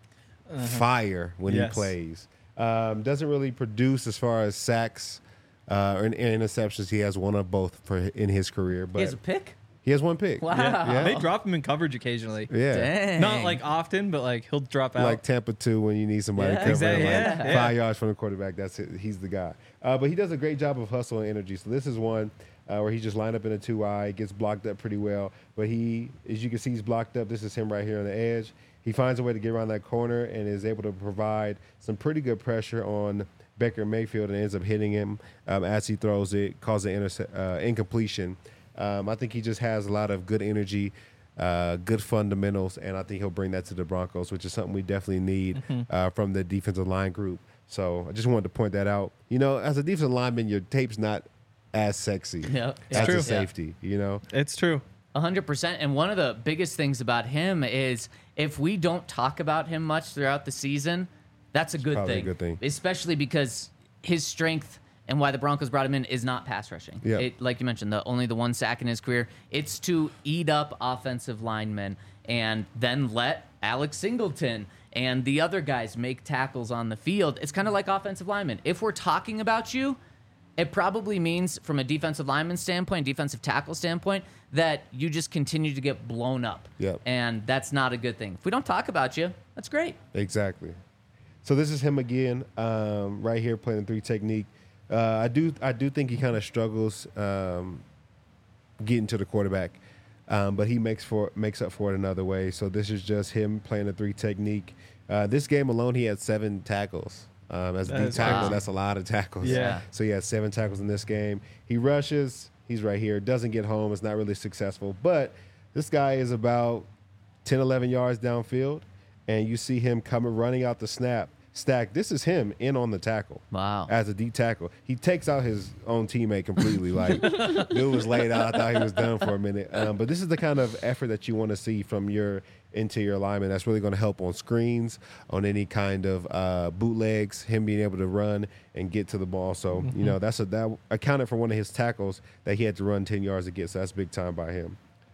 fire when Yes. he plays. Um, doesn't really produce as far as sacks uh, or in, in interceptions. He has one of both for in his career, but He has a pick? he has one pick. Wow. Yeah. Yeah. They drop him in coverage occasionally. Yeah. Dang. Not like often, but like he'll drop out. Like Tampa two when you need somebody Yeah. to cover Exactly, like yeah, yeah. five yards from the quarterback. That's it. He's the guy. Uh, but he does a great job of hustle and energy. So this is one uh, where he just lined up in a two eye, gets blocked up pretty well. But he, as you can see, he's blocked up. This is him right here on the edge. He finds a way to get around that corner and is able to provide some pretty good pressure on Baker Mayfield and ends up hitting him um, as he throws it, causing interce- uh, incompletion. Um, I think he just has a lot of good energy, uh, good fundamentals, and I think he'll bring that to the Broncos, which is something we definitely need Mm-hmm. uh, from the defensive line group. So I just wanted to point that out. You know, as a defensive lineman, your tape's not as sexy Yep. as true. a Yeah. safety, you know? It's true. one hundred percent. And one of the biggest things about him is if we don't talk about him much throughout the season, that's a good probably a thing. good thing. Especially because his strength and why the Broncos brought him in is not pass rushing. Yeah. It, like you mentioned, the only the one sack in his career. It's to eat up offensive linemen and then let Alex Singleton and the other guys make tackles on the field. It's kind of like offensive linemen. If we're talking about you, it probably means from a defensive lineman standpoint, defensive tackle standpoint, that you just continue to get blown up. Yep. And that's not a good thing. If we don't talk about you, that's great. Exactly. So this is him again, um, right here playing the three technique. Uh, I do I do think he kind of struggles um, getting to the quarterback, um, but he makes for makes up for it another way. So this is just him playing the three technique. Uh, this game alone, he had seven tackles. Um, as a That D is tackle, wow. that's a lot of tackles. Yeah. So he had seven tackles in this game. He rushes. He's right here. Doesn't get home. It's not really successful. But this guy is about ten, eleven yards downfield, and you see him coming, running out the snap. Stack, this is him in on the tackle. Wow. As a D tackle. He takes out his own teammate completely. Like, dude was laid out. I thought he was done for a minute. Um, but this is the kind of effort that you want to see from your interior lineman. That's really going to help on screens, on any kind of uh, bootlegs, him being able to run and get to the ball. So, you know, that's a, that accounted for one of his tackles that he had to run ten yards to get. So that's big time by him.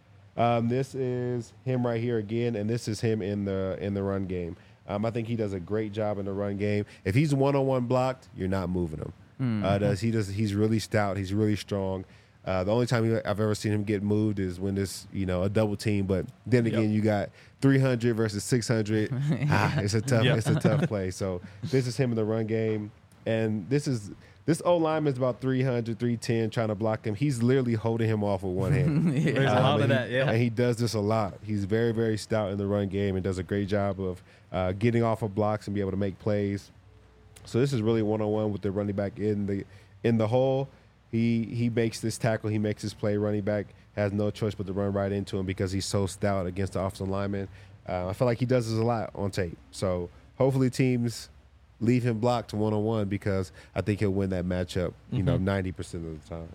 Um, this is him right here again, and this is him in the in the run game. Um, I think he does a great job in the run game. If he's one-on-one blocked, you're not moving him. Mm-hmm. Uh, does he does? He's really stout. He's really strong. Uh, the only time he- I've ever seen him get moved is when there's you know a double team. But then again, Yep. you got three hundred versus six hundred. ah, it's a tough. Yep. It's a tough play. So this is him in the run game, and this is. This O lineman is about three hundred, three ten, trying to block him. He's literally holding him off with one hand. There's a Um, lot of and that, he- yeah. And he does this a lot. He's very, very stout in the run game and does a great job of uh, getting off of blocks and be able to make plays. So this is really one-on-one with the running back in the in the hole. He he makes this tackle. He makes this play. Running back has no choice but to run right into him because he's so stout against the offensive lineman. Uh, I feel like he does this a lot on tape. So hopefully teams leave him blocked one-on-one because I think he'll win that matchup, you know, ninety percent of the time.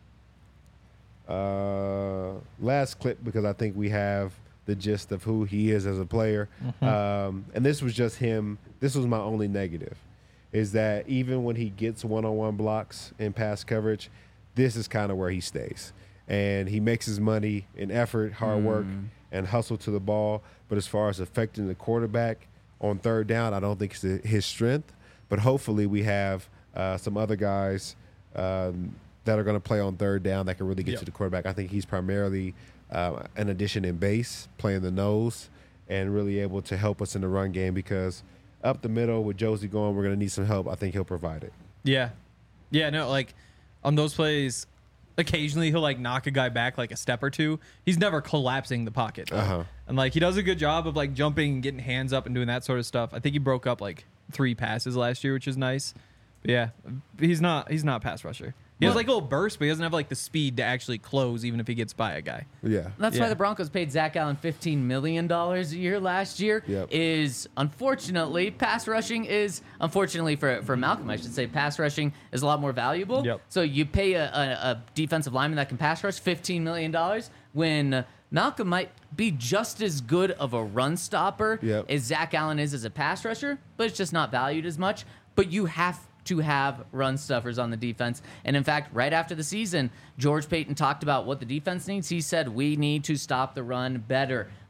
Uh, last clip because I think we have the gist of who he is as a player. Um, and this was just him. This was my only negative, is that even when he gets one-on-one blocks in pass coverage, this is kind of where he stays. And he makes his money in effort, hard work, and hustle to the ball. But as far as affecting the quarterback on third down, I don't think it's his strength. But hopefully we have uh, some other guys um, that are going to play on third down that can really get Yep. to the quarterback. I think he's primarily uh, an addition in base, playing the nose, and really able to help us in the run game because up the middle with Josie going, we're going to need some help. I think he'll provide it. Yeah. Yeah, no, like on those plays, occasionally he'll like knock a guy back like a step or two. He's never collapsing the pocket. though. Uh-huh. And like he does a good job of like jumping and getting hands up and doing that sort of stuff. I think he broke up like three passes last year, which is nice. But yeah, he's not he's not a pass rusher. He has Well- like a little burst, but he doesn't have like the speed to actually close even if he gets by a guy. Yeah. That's Yeah. why the Broncos paid Zach Allen fifteen million dollars a year last year. Yep. Is unfortunately pass rushing is unfortunately for for Malcolm, I should say, pass rushing is a lot more valuable. Yep. So you pay a, a, a defensive lineman that can pass rush fifteen million dollars when Malcolm might be just as good of a run stopper Yep. as Zach Allen is as a pass rusher, but it's just not valued as much. But you have to have run stuffers on the defense. And in fact, right after the season, George Payton talked about what the defense needs. He said, we need to stop the run better.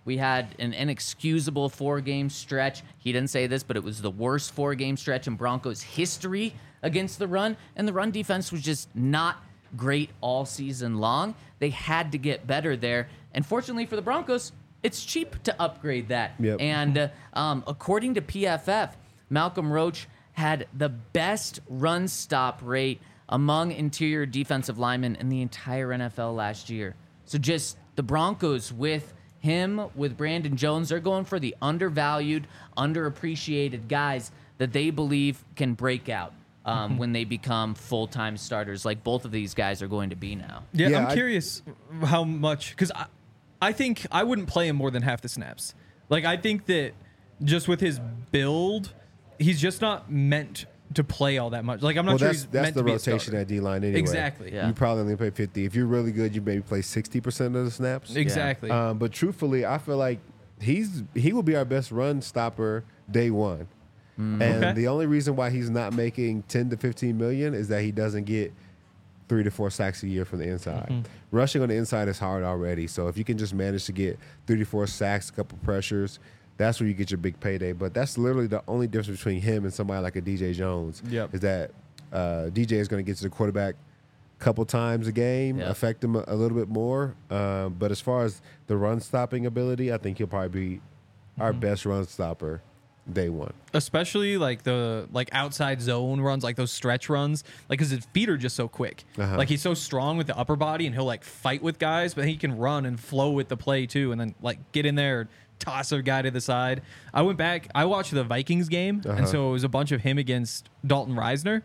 We had an inexcusable four-game stretch. He didn't say this, but it was the worst four-game stretch in Broncos history against the run, and the run defense was just not great all season long. They had to get better there, and fortunately for the Broncos, it's cheap to upgrade that. Yep. And uh, um, according to P F F, Malcolm Roach had the best run stop rate among interior defensive linemen in the entire N F L last year. So just the Broncos with him, with Brandon Jones, they're going for the undervalued, underappreciated guys that they believe can break out um, Mm-hmm. when they become full-time starters, like both of these guys are going to be now. Yeah, Yeah, I'm I- curious how much, because I, I think I wouldn't play him more than half the snaps. Like, I think that just with his build, he's just not meant to play all that much. Like, I'm not Well, sure that's he's that's meant the to be a rotation starter. at D line anyway. Exactly. Yeah. You probably only play fifty. If you're really good, you maybe play sixty percent of the snaps. Exactly. Um, but truthfully, I feel like he's he will be our best run stopper day one. And Okay. the only reason why he's not making ten to fifteen million is that he doesn't get three to four sacks a year from the inside. Mm-hmm. Rushing on the inside is hard already. So if you can just manage to get three to four sacks, a couple pressures, that's where you get your big payday. But that's literally the only difference between him and somebody like a D J Jones. Yep. Is that uh, D J is going to get to the quarterback a couple times a game, Yep. affect him a, a little bit more. Um, but as far as the run stopping ability, I think he'll probably be our Mm-hmm. best run stopper day one. Especially like the like outside zone runs, like those stretch runs, like because his feet are just so quick. Uh-huh. Like he's so strong with the upper body, and he'll like fight with guys, but he can run and flow with the play too, and then like get in there, toss a guy to the side. I went back, I watched the Vikings game, Uh-huh. and so it was a bunch of him against Dalton Reisner.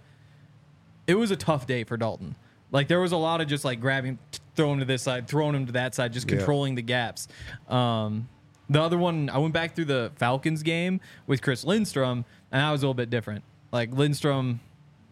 It was a tough day for Dalton. Like there was a lot of just like grabbing, t- throwing him to this side, throwing him to that side, just Yeah. controlling the gaps. Um, the other one, I went back through the Falcons game with Chris Lindstrom, and that was a little bit different. Like Lindstrom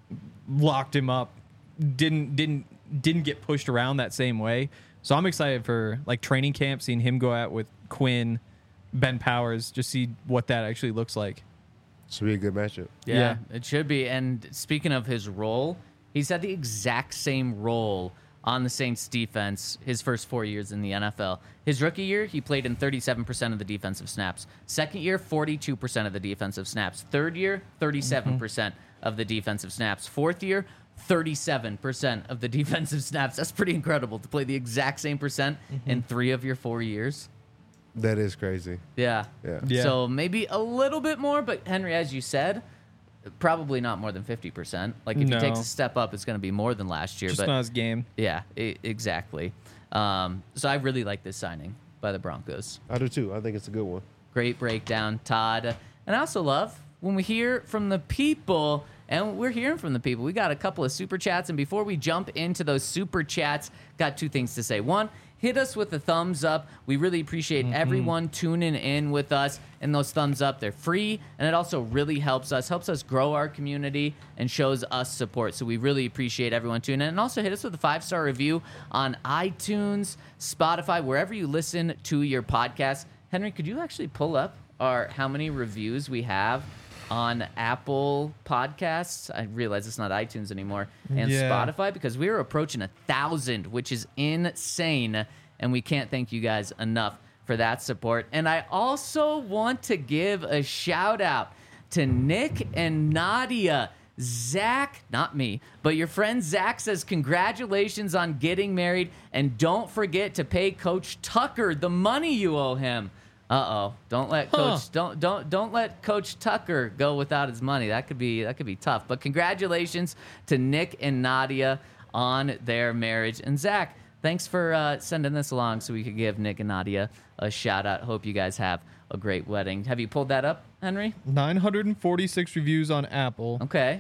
locked him up, didn't didn't didn't get pushed around that same way. So I'm excited for like training camp, seeing him go out with Quinn, Ben Powers, just see what that actually looks like. Should be a good matchup. Yeah, Yeah. it should be. And speaking of his role, he's had the exact same role on the Saints defense his first four years in the N F L. His rookie year, he played in thirty-seven percent of the defensive snaps. Second year, forty-two percent of the defensive snaps. Third year, thirty-seven percent of the defensive snaps. Fourth year, thirty-seven percent of the defensive snaps. That's pretty incredible to play the exact same percent in three of your four years. That is crazy. Yeah. Yeah. Yeah. So maybe a little bit more, but Henry, as you said, probably not more than fifty percent. Like if No. he takes a step up, it's going to be more than last year. Just but not his game. yeah, I- exactly. Um, so I really like this signing by the Broncos. I do too. I think it's a good one. Great breakdown, Todd. And I also love when we hear from the people, and we're hearing from the people. We got a couple of super chats, and before we jump into those super chats, got two things to say. One, hit us with a thumbs up. We really appreciate everyone tuning in with us, and those thumbs up, they're free, and it also really helps us, helps us grow our community and shows us support. So we really appreciate everyone tuning in. And also hit us with a five-star review on iTunes, Spotify, wherever you listen to your podcast. Henry, could you actually pull up our how many reviews we have on Apple Podcasts? I realize it's not iTunes anymore, and Yeah. Spotify, because we are approaching a thousand, which is insane, and we can't thank you guys enough for that support. And I also want to give a shout out to Nick and Nadia. Zach, not me, but your friend Zach says congratulations on getting married, and don't forget to pay Coach Tucker the money you owe him. Uh-oh. Don't let Huh. Coach don't don't don't let Coach Tucker go without his money. That could be that could be tough. But congratulations to Nick and Nadia on their marriage. And Zach, thanks for uh, sending this along so we could give Nick and Nadia a shout out. Hope you guys have a great wedding. Have you pulled that up, Henry? nine hundred forty-six reviews on Apple. Okay.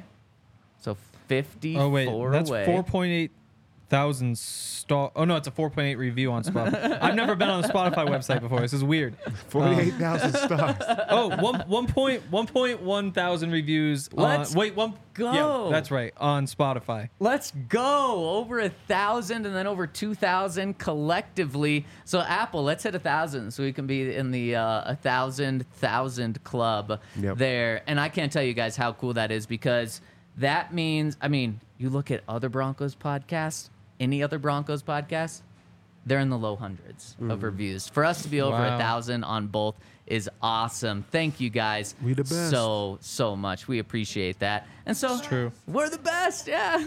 So fifty-four Oh wait, that's away. four point eight thousand star. Oh no, it's a four point eight review on Spotify. I've never been on the Spotify website before. This is weird. Forty-eight thousand stars. Oh, one one point one point one thousand reviews. Let's on, wait, one go. Yeah, that's right, on Spotify. Let's go. Over a thousand and then over two thousand collectively. So Apple, let's hit a thousand so we can be in the uh, a thousand thousand club Yep. there. And I can't tell you guys how cool that is, because that means, I mean, you look at other Broncos podcasts, any other Broncos podcasts, they're in the low hundreds of reviews. For us to be over a Wow. thousand on both is awesome. Thank you guys We the best. so so much. We appreciate that. And so It's true. we're the best. Yeah.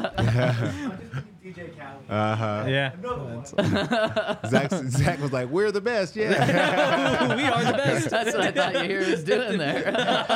D J Khaled. Uh huh. Yeah. Zach, Zach was like, "We're the best." Yeah. We are the best. That's what I thought you hear was doing there.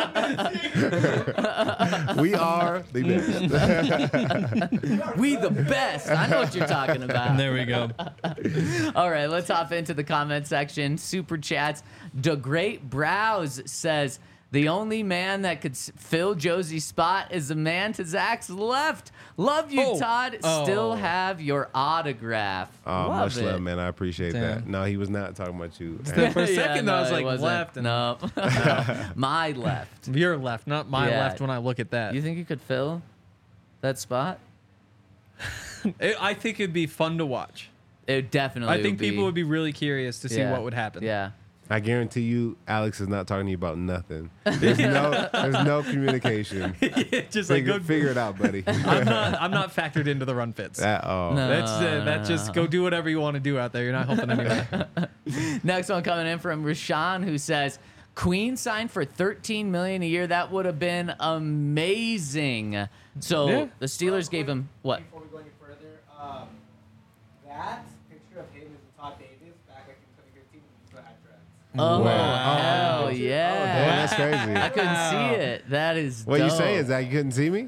We are the best. We the best. I know what you're talking about. There we go. All right, let's hop into the comment section. Super chats. The Great Browse says the only man that could s- fill Josie's spot is the man to Zach's left. Love you, Oh. Todd. Oh. Still have your autograph. Oh, Love much it. love, man. I appreciate that. Damn. No, he was not talking about you. For a Yeah, second, no, I was it like, wasn't. left. And No, my left. Your left, not my Yeah. left when I look at that. You think you could fill that spot? It- I think it'd be fun to watch. It definitely. I think would be, people would be really curious to see yeah, what would happen. Yeah. I guarantee you, Alex is not talking to you about nothing. There's no, there's no communication. Just like Figure, go. figure it out, buddy. I'm not. I'm not factored into the run fits. At all. No. That's uh, that's just go do whatever you want to do out there. You're not helping anyone. Next one coming in from Rashawn, who says Queen signed for thirteen million dollars a year. That would have been amazing. So Yeah. the Steelers gave him what? Before we go any further, um, that picture of him is Todd Davis back like in twenty fifteen when he still had dreads. Oh, Wow. hell Oh, yeah! damn, that's crazy. I couldn't see it. That is. What are you dope. saying, Zach? You couldn't see me?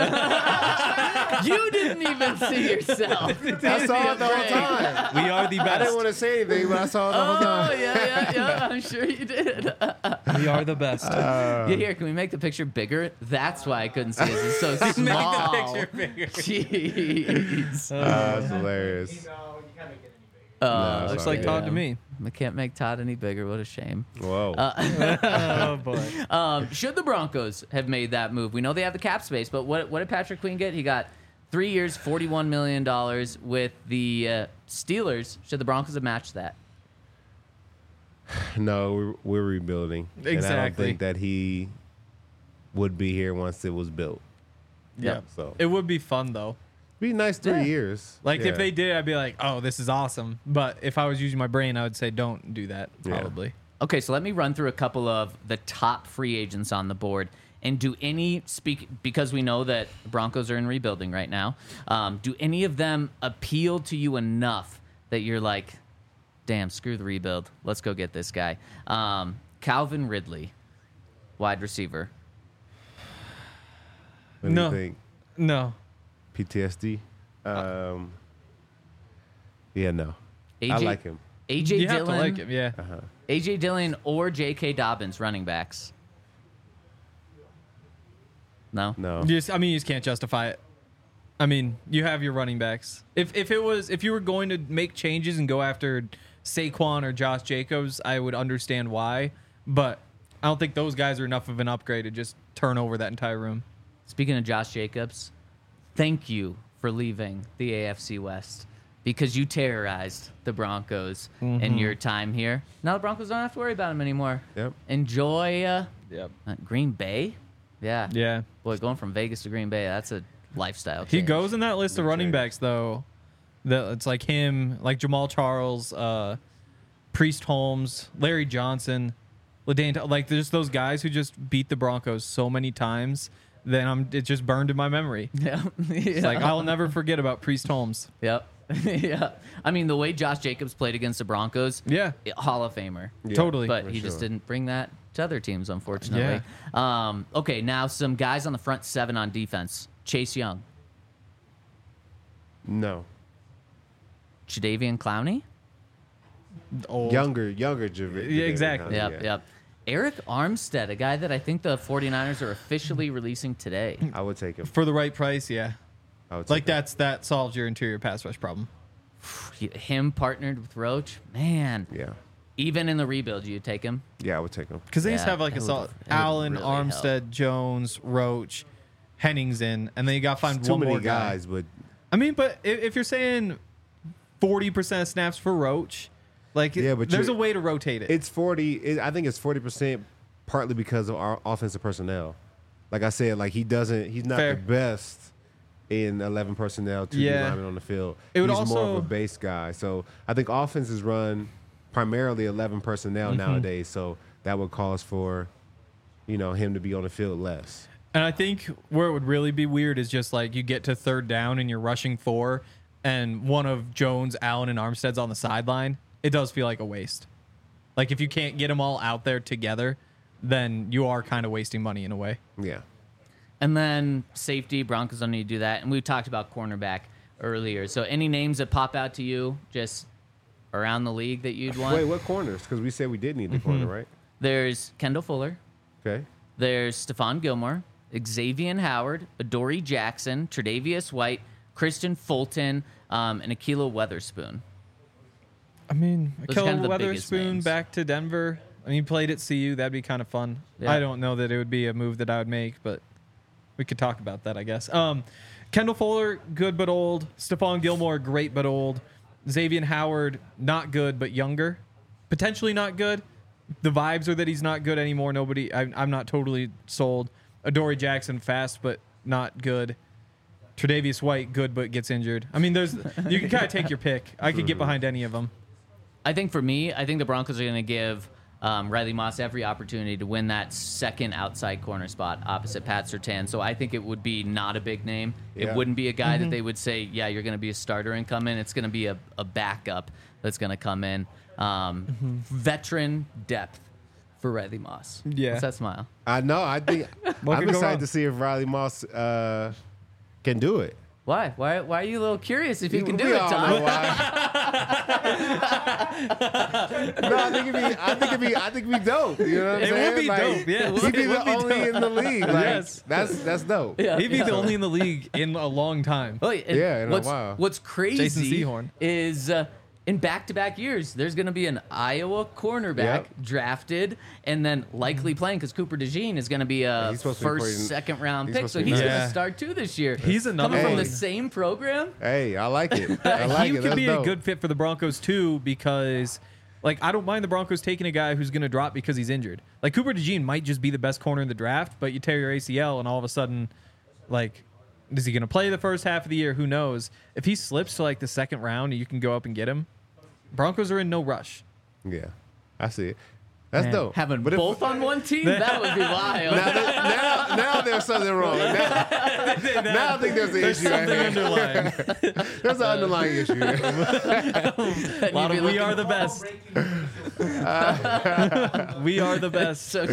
You didn't even see yourself. I saw it the whole time. We are the I didn't best. want to say anything, but I saw it the whole Oh time. yeah, yeah, yeah. I'm sure you did. We are the best. Uh, Yeah, here, can we make the picture bigger? That's why I couldn't see it. It's so Make small. the picture bigger. Jeez. uh, that's hilarious. You know, you can't make it any bigger. Oh, No, Looks sorry. like Todd to me. I can't make Todd any bigger. What a shame. Whoa. Oh boy. Um, should the Broncos have made that move? We know they have the cap space, but what what did Patrick Queen get? He got three years, forty-one million dollars with the uh, Steelers. Should the Broncos have matched that? No, we're, we're rebuilding. And I don't Exactly. think that he would be here once it was built. Yeah. So It would be fun though. be nice three Yeah. years. Like Yeah. if they did, I'd be like, oh, this is awesome. But if I was using my brain, I would say don't do that. Yeah. Probably. Okay, so let me run through a couple of the top free agents on the board. And do any speak because we know that the Broncos are in rebuilding right now. Um, do any of them appeal to you enough that you're like, damn, screw the rebuild. Let's go get this guy. Um, Calvin Ridley, wide receiver. What do No. you think? No. P T S D? Um, yeah, no. A J, I like him. A J You have Dillon, to like him. Yeah. Uh-huh. A J Dillon or J K Dobbins, running backs. No. No. You just, I mean, you just can't justify it. I mean, you have your running backs. If if it was if you were going to make changes and go after Saquon or Josh Jacobs, I would understand why. But I don't think those guys are enough of an upgrade to just turn over that entire room. Speaking of Josh Jacobs, thank you for leaving the A F C West because you terrorized the Broncos in your time here. Now the Broncos don't have to worry about him anymore. Yep. Enjoy uh, Yep. uh, Green Bay. Yeah. Yeah. Boy, going from Vegas to Green Bay, that's a lifestyle He change. goes in that list of Big running change. backs though. That it's like him, like Jamal Charles, uh, Priest Holmes, Larry Johnson, LaDaine, like there's those guys who just beat the Broncos so many times. Then I'm it just burned in my memory. Yeah. It's like I'll never forget about Priest Holmes. Yep. yeah. I mean, the way Josh Jacobs played against the Broncos, Yeah, Hall of Famer. Yeah, totally. But for he just sure. didn't bring that to other teams, unfortunately. Um, okay, now some guys on the front seven on defense. Chase Young, No. Jadeveon Clowney. Old. Younger, younger. Jav- Yeah, exactly. Yep, Yeah. yep. Eric Armstead, a guy that I think the 49ers are officially releasing today. I would take him. For the right price, yeah. I would take Like him. that's that solves your interior pass rush problem. Him partnered with Roach, man. Yeah. Even in the rebuild, you take him. Yeah, I would take him. Because they just Yeah, have like that a would- solid that would Allen, really Armstead, Jones, Roach, Henningsen, and then you got to find It's too one many more guy. guys, but I mean, but if, if you're saying forty percent of snaps for Roach, like Yeah, but there's a you're- way to rotate it. it's forty. It, I think it's forty percent, partly because of our offensive personnel. Like I said, like he doesn't. He's not Fair. the best in eleven personnel, two Yeah. linemen on the field. It would He's more also- of a base guy. So I think offense is run primarily eleven personnel Mm-hmm. nowadays. So that would cause for, you know, him to be on the field less. And I think where it would really be weird is just like you get to third down and you're rushing four, and one of Jones, Allen, and Armstead's on the sideline. It does feel like a waste. Like if you can't get them all out there together, then you are kind of wasting money in a way. Yeah. And then safety, Broncos don't need to do that. And we talked about cornerback earlier. So any names that pop out to you just around the league that you'd want? Wait, what corners? Because we said we did need the Mm-hmm. corner, right? There's Kendall Fuller. Okay. There's Stephon Gilmore, Xavier Howard, Adoree Jackson, Tre'Davious White, Christian Fulton, um, and Akilo Weatherspoon. I mean, Those are Akel kind of the biggest Weatherspoon names. back to Denver. I mean, he played at C U. That'd be kind of fun. Yeah. I don't know that it would be a move that I would make, but we could talk about that, I guess. Um, Kendall Fuller, good but old. Stephon Gilmore, great but old. Xavier Howard, not good but younger. Potentially not good. The vibes are that he's not good anymore. Nobody, I, I'm not totally sold. Adoree Jackson, fast but not good. Tre'Davious White, good but gets injured. I mean, there's you can kind of take your pick. I could get behind any of them. I think for me, I think the Broncos are going to give um, Riley Moss every opportunity to win that second outside corner spot opposite Pat Surtain. So I think it would be not a big name. It Yeah. wouldn't be a guy that they would say, yeah, you're going to be a starter and come in. It's going to be a, a backup that's going to come in. Um, Veteran depth for Riley Moss. Yeah. What's that smile? I know. I think What I'm could go excited wrong? to see if Riley Moss uh, can do it. Why? Why? Why are you a little curious if you can do We it, all know Todd? why. no, I think it'd be. I think it'd be. I think it'd be dope. You know what I'm It saying? would be Like, dope, yes. He'd be It would the be only dope. in the league. Like, Yes. That's that's dope. Yeah, He'd be yeah. the only in the league in a long time. Oh, and Yeah, in a what's, while. What's crazy Jason Sehorn. is uh, in back-to-back years, there's going to be an Iowa cornerback Yep. drafted and then likely playing because Cooper DeJean is going to be a he's supposed to be first, playing- second-round he's pick, supposed so to be he's nice. going to Yeah. start too this year. He's another Coming from one. the same program. Hey, I like it. I like he it. could That's be dope. a good fit for the Broncos too because, like, I don't mind the Broncos taking a guy who's going to drop because he's injured. Like Cooper DeJean might just be the best corner in the draft, but you tear your A C L and all of a sudden, like, is he going to play the first half of the year? Who knows? If he slips to like the second round, and you can go up and get him. Broncos are in no rush. Yeah, I see it. That's Man, dope. Having But if- both on one team, that would be wild. Now, there- now, now there's something wrong. Now, now I think there's an There's issue. right something here. underlying. There's an underlying issue. And A lot you'd of be we looking- are the best. We are the best. So,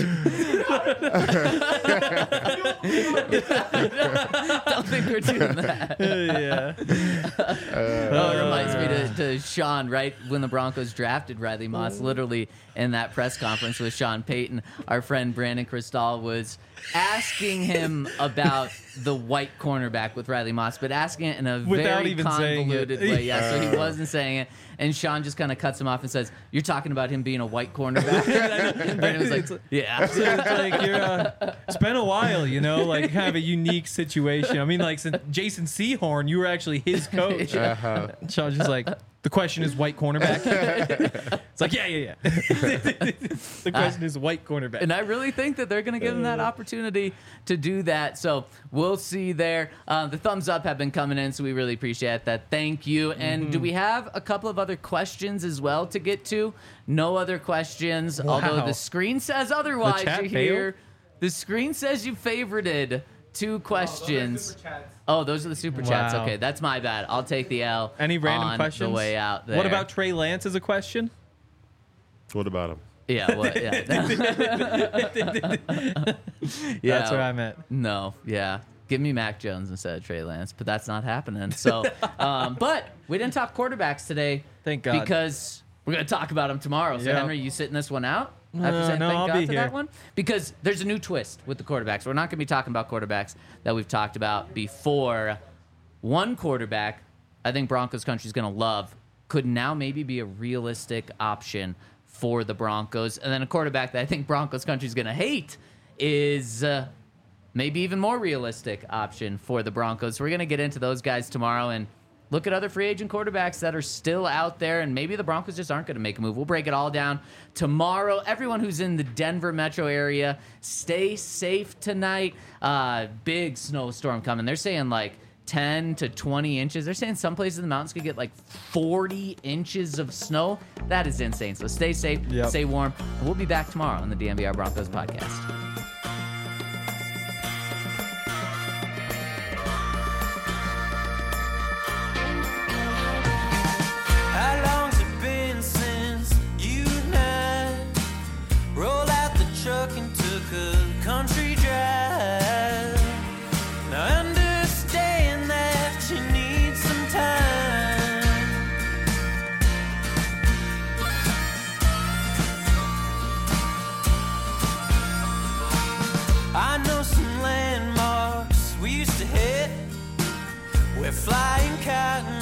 don't think we're doing that. yeah. Oh, it reminds me to, to Sean, right? When the Broncos drafted Riley Moss, literally in that press conference with Sean Payton, our friend Brandon Cristal was asking him about the white cornerback with Riley Moss, but asking it in a Without very even saying it. convoluted way. Yeah, so he wasn't saying it. And Sean just kind of cuts him off and says, "You're talking about him being a white cornerback?" And Brandon was like, "Yeah." So it's like you're. Uh, it's been a while, you know, like kind of a unique situation. I mean, like since Jason Sehorn, you were actually his coach. Uh-huh. Sean's just like, the question is white cornerback. It's like, yeah, yeah, yeah. The question is white cornerback. And I really think that they're going to give him that opportunity to do that. So we'll see there. Uh, the thumbs up have been coming in, so we really appreciate that. Thank you. And do we have a couple of other questions as well to get to? No other questions, although Wow. the screen says otherwise. chat You failed? hear the screen says you favorited two questions. Oh, those are the super chats. Wow. Okay, that's my bad. I'll take the L. Any random on questions? The way out there. What about Trey Lance as a question? What about him? Yeah. What, yeah. yeah. That's what I meant. No, yeah. Give me Mac Jones instead of Trey Lance, but that's not happening. So, um, but we didn't talk quarterbacks today. Thank God. Because we're going to talk about them tomorrow. So, Yeah. Henry, you sitting this one out? Uh, After saying no, thank I'll God be for here. that one? Because there's a new twist with the quarterbacks. We're not going to be talking about quarterbacks that we've talked about before. One quarterback I think Broncos country is going to love could now maybe be a realistic option for the Broncos. And then a quarterback that I think Broncos country is going to hate is uh, maybe even more realistic option for the Broncos. So we're going to get into those guys tomorrow and look at other free agent quarterbacks that are still out there, and maybe the Broncos just aren't going to make a move. We'll break it all down tomorrow. Everyone who's in the Denver metro area, stay safe tonight. Uh, big snowstorm coming. They're saying like ten to twenty inches. They're saying some places in the mountains could get like forty inches of snow. That is insane. So stay safe, Yep. stay warm, and we'll be back tomorrow on the D N V R Broncos podcast. How long's it been since you and I rolled out the truck and took a country drive? Now understand that you need some time. I know some landmarks we used to hit where flying cotton